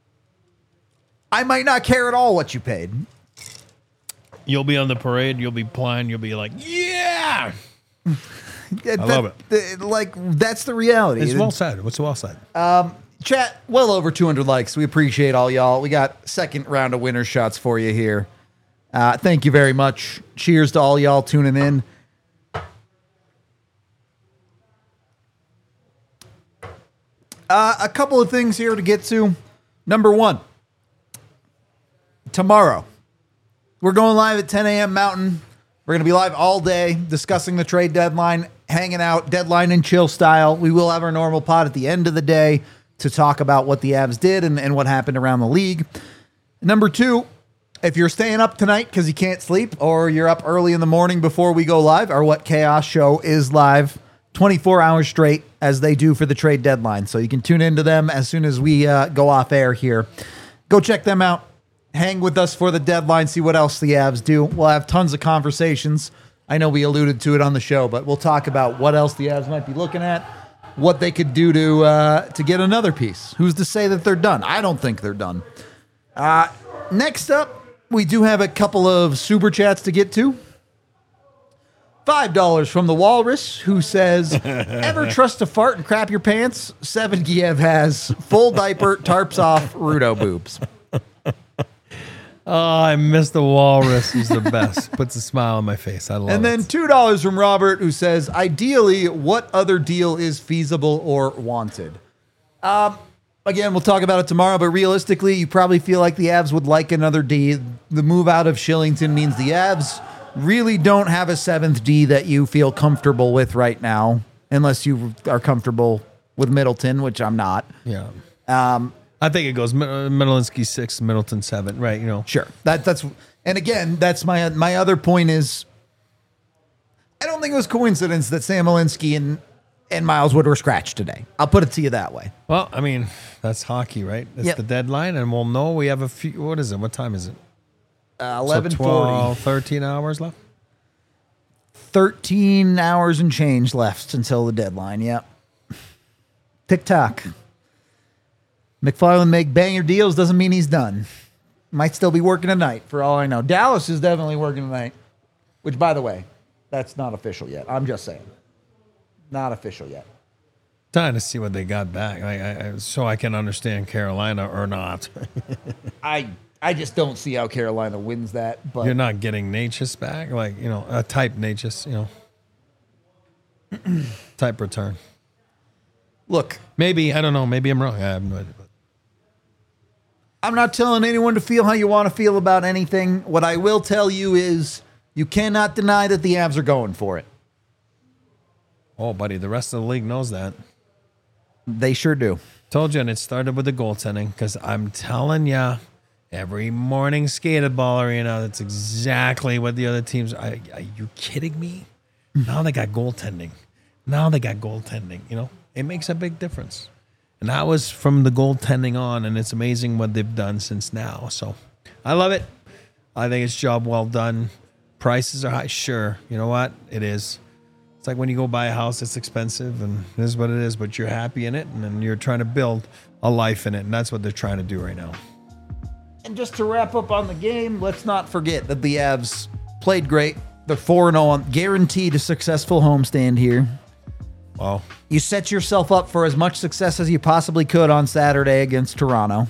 I might not care at all what you paid. You'll be on the parade. You'll be playing. You'll be like, yeah. I love it. Like, that's the reality. It's well said. What's well said? Chat, well over two hundred likes. We appreciate all y'all. We got second round of winner shots for you here. Uh, thank you very much. Cheers to all y'all tuning in. Uh, a couple of things here to get to. Number one, tomorrow, we're going live at ten a.m. Mountain. We're going to be live all day discussing the trade deadline, hanging out, deadline and chill style. We will have our normal pod at the end of the day to talk about what the Avs did and, and what happened around the league. Number two, if you're staying up tonight because you can't sleep or you're up early in the morning before we go live, our What Chaos show is live twenty-four hours straight, as they do for the trade deadline. So you can tune into them as soon as we uh, go off air here. Go check them out. Hang with us for the deadline, see what else the Avs do. We'll have tons of conversations. I know we alluded to it on the show, but we'll talk about what else the Avs might be looking at, what they could do to uh, to get another piece. Who's to say that they're done? I don't think they're done. Uh, next up, we do have a couple of super chats to get to. five dollars from the Walrus, who says, ever trust to fart and crap your pants? Seven Giev has full diaper, tarps off, Rudo boobs. Oh, I miss the Walrus. He's the best. Puts a smile on my face. I love it. And then two dollars from Robert, who says, ideally, what other deal is feasible or wanted? Um, again, we'll talk about it tomorrow, but realistically, you probably feel like the Avs would like another D. The move out of Shillington means the Avs really don't have a seventh D that you feel comfortable with right now, unless you are comfortable with Middleton, which I'm not. Yeah. Um, I think it goes Middlensky six, Middleton seven, right? You know, sure. That that's and again, that's my my other point is, I don't think it was coincidence that Sam Alinsky and and Miles Wood were scratched today. I'll put it to you that way. Well, I mean, that's hockey, right? It's Yep. the deadline, and we'll know. We have a few. What is it? What time is it? Uh, So eleven twelve, forty. thirteen hours left. Thirteen hours and change left until the deadline. Yep. Tick tock. McFarland make banger deals doesn't mean he's done. Might still be working tonight for all I know. Dallas is definitely working tonight, which, by the way, that's not official yet. I'm just saying. Not official yet. Trying to see what they got back, I, I, I- so I can understand Carolina or not. I I just don't see how Carolina wins that. But You're not getting Natchez back, like you know, a type Natchez, you know, type return. Look, maybe I don't know. Maybe I'm wrong. I have no idea. But I'm not telling anyone to feel how you want to feel about anything. What I will tell you is you cannot deny that the Avs are going for it. oh, buddy, the rest of the league knows that. They sure do. Told you, and it started with the goaltending because I'm telling ya, every morning skated ball arena, that's exactly what the other teams are. Are you kidding me? Now they got goaltending. Now they got goaltending. You know, it makes a big difference. And that was from the goaltending on, and it's amazing what they've done since now. So I love it. I think it's job well done. Prices are high. Sure. You know what? It is. It's like when you go buy a house, it's expensive, and it is what it is, but you're happy in it, and then you're trying to build a life in it, and that's what they're trying to do right now. And just to wrap up on the game, let's not forget that the Avs played great. They're four and oh on guaranteed a successful homestand here. Wow. You set yourself up for as much success as you possibly could on Saturday against Toronto.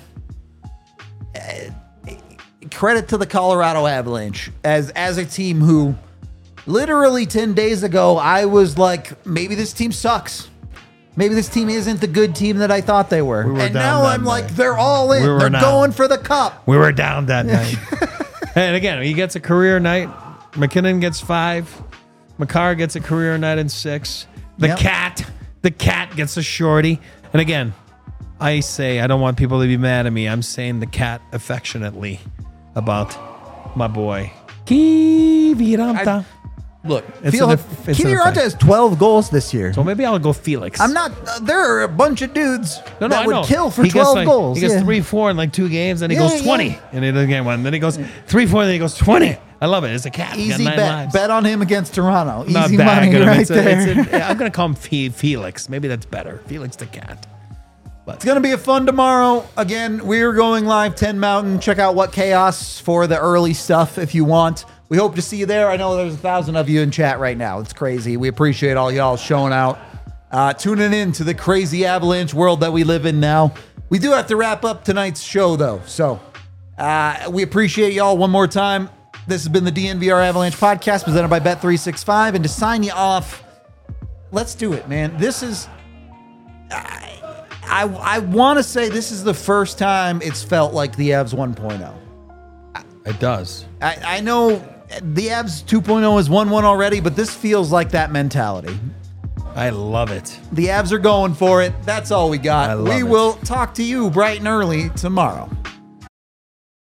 Uh, credit to the Colorado Avalanche as as a team who literally ten days ago I was like, maybe this team sucks. Maybe this team isn't the good team that I thought they were. We were and down now that I'm like, night. they're all in. We were they're down. going for the cup. We were down that night. And again, he gets a career night. McKinnon gets five. Makar gets a career night in six. The Yep. cat, the cat gets a shorty. And again, I say, I don't want people to be mad at me. I'm saying the cat affectionately about my boy. Kiviranta. Look, It's feel an- how- it's an Kiviranta effect. has twelve goals this year. So maybe I'll go Felix. I'm not. Uh, there are a bunch of dudes No, no, that I would know. kill for He gets twelve like- goals. He gets yeah. three, four in like two games, then he Yeah, goes twenty, yeah. and he doesn't get one. Then he goes three, four, then he goes twenty. I love it. It's a cat. He's got Easy nine bet. lives. Bet on him against Toronto. Not Easy bagging money him. right It's a- there. it's a- I'm gonna call him Fe- Felix. Maybe that's better. Felix the cat. It's going to be a fun tomorrow. Again, we're going live ten Mountain. Check out What Chaos for the early stuff if you want. We hope to see you there. I know there's a thousand of you in chat right now. It's crazy. We appreciate all y'all showing out, uh, tuning in to the crazy Avalanche world that we live in now. We do have to wrap up tonight's show, though. So uh, we appreciate y'all one more time. This has been the D N V R Avalanche podcast presented by Bet three sixty-five. And to sign you off, let's do it, man. This is... I, I, I want to say this is the first time it's felt like the Avs one point oh. It does. I, I know the Avs two point oh is one one already, but this feels like that mentality. I love it. The Avs are going for it. That's all we got. I love We it. will talk to you bright and early tomorrow.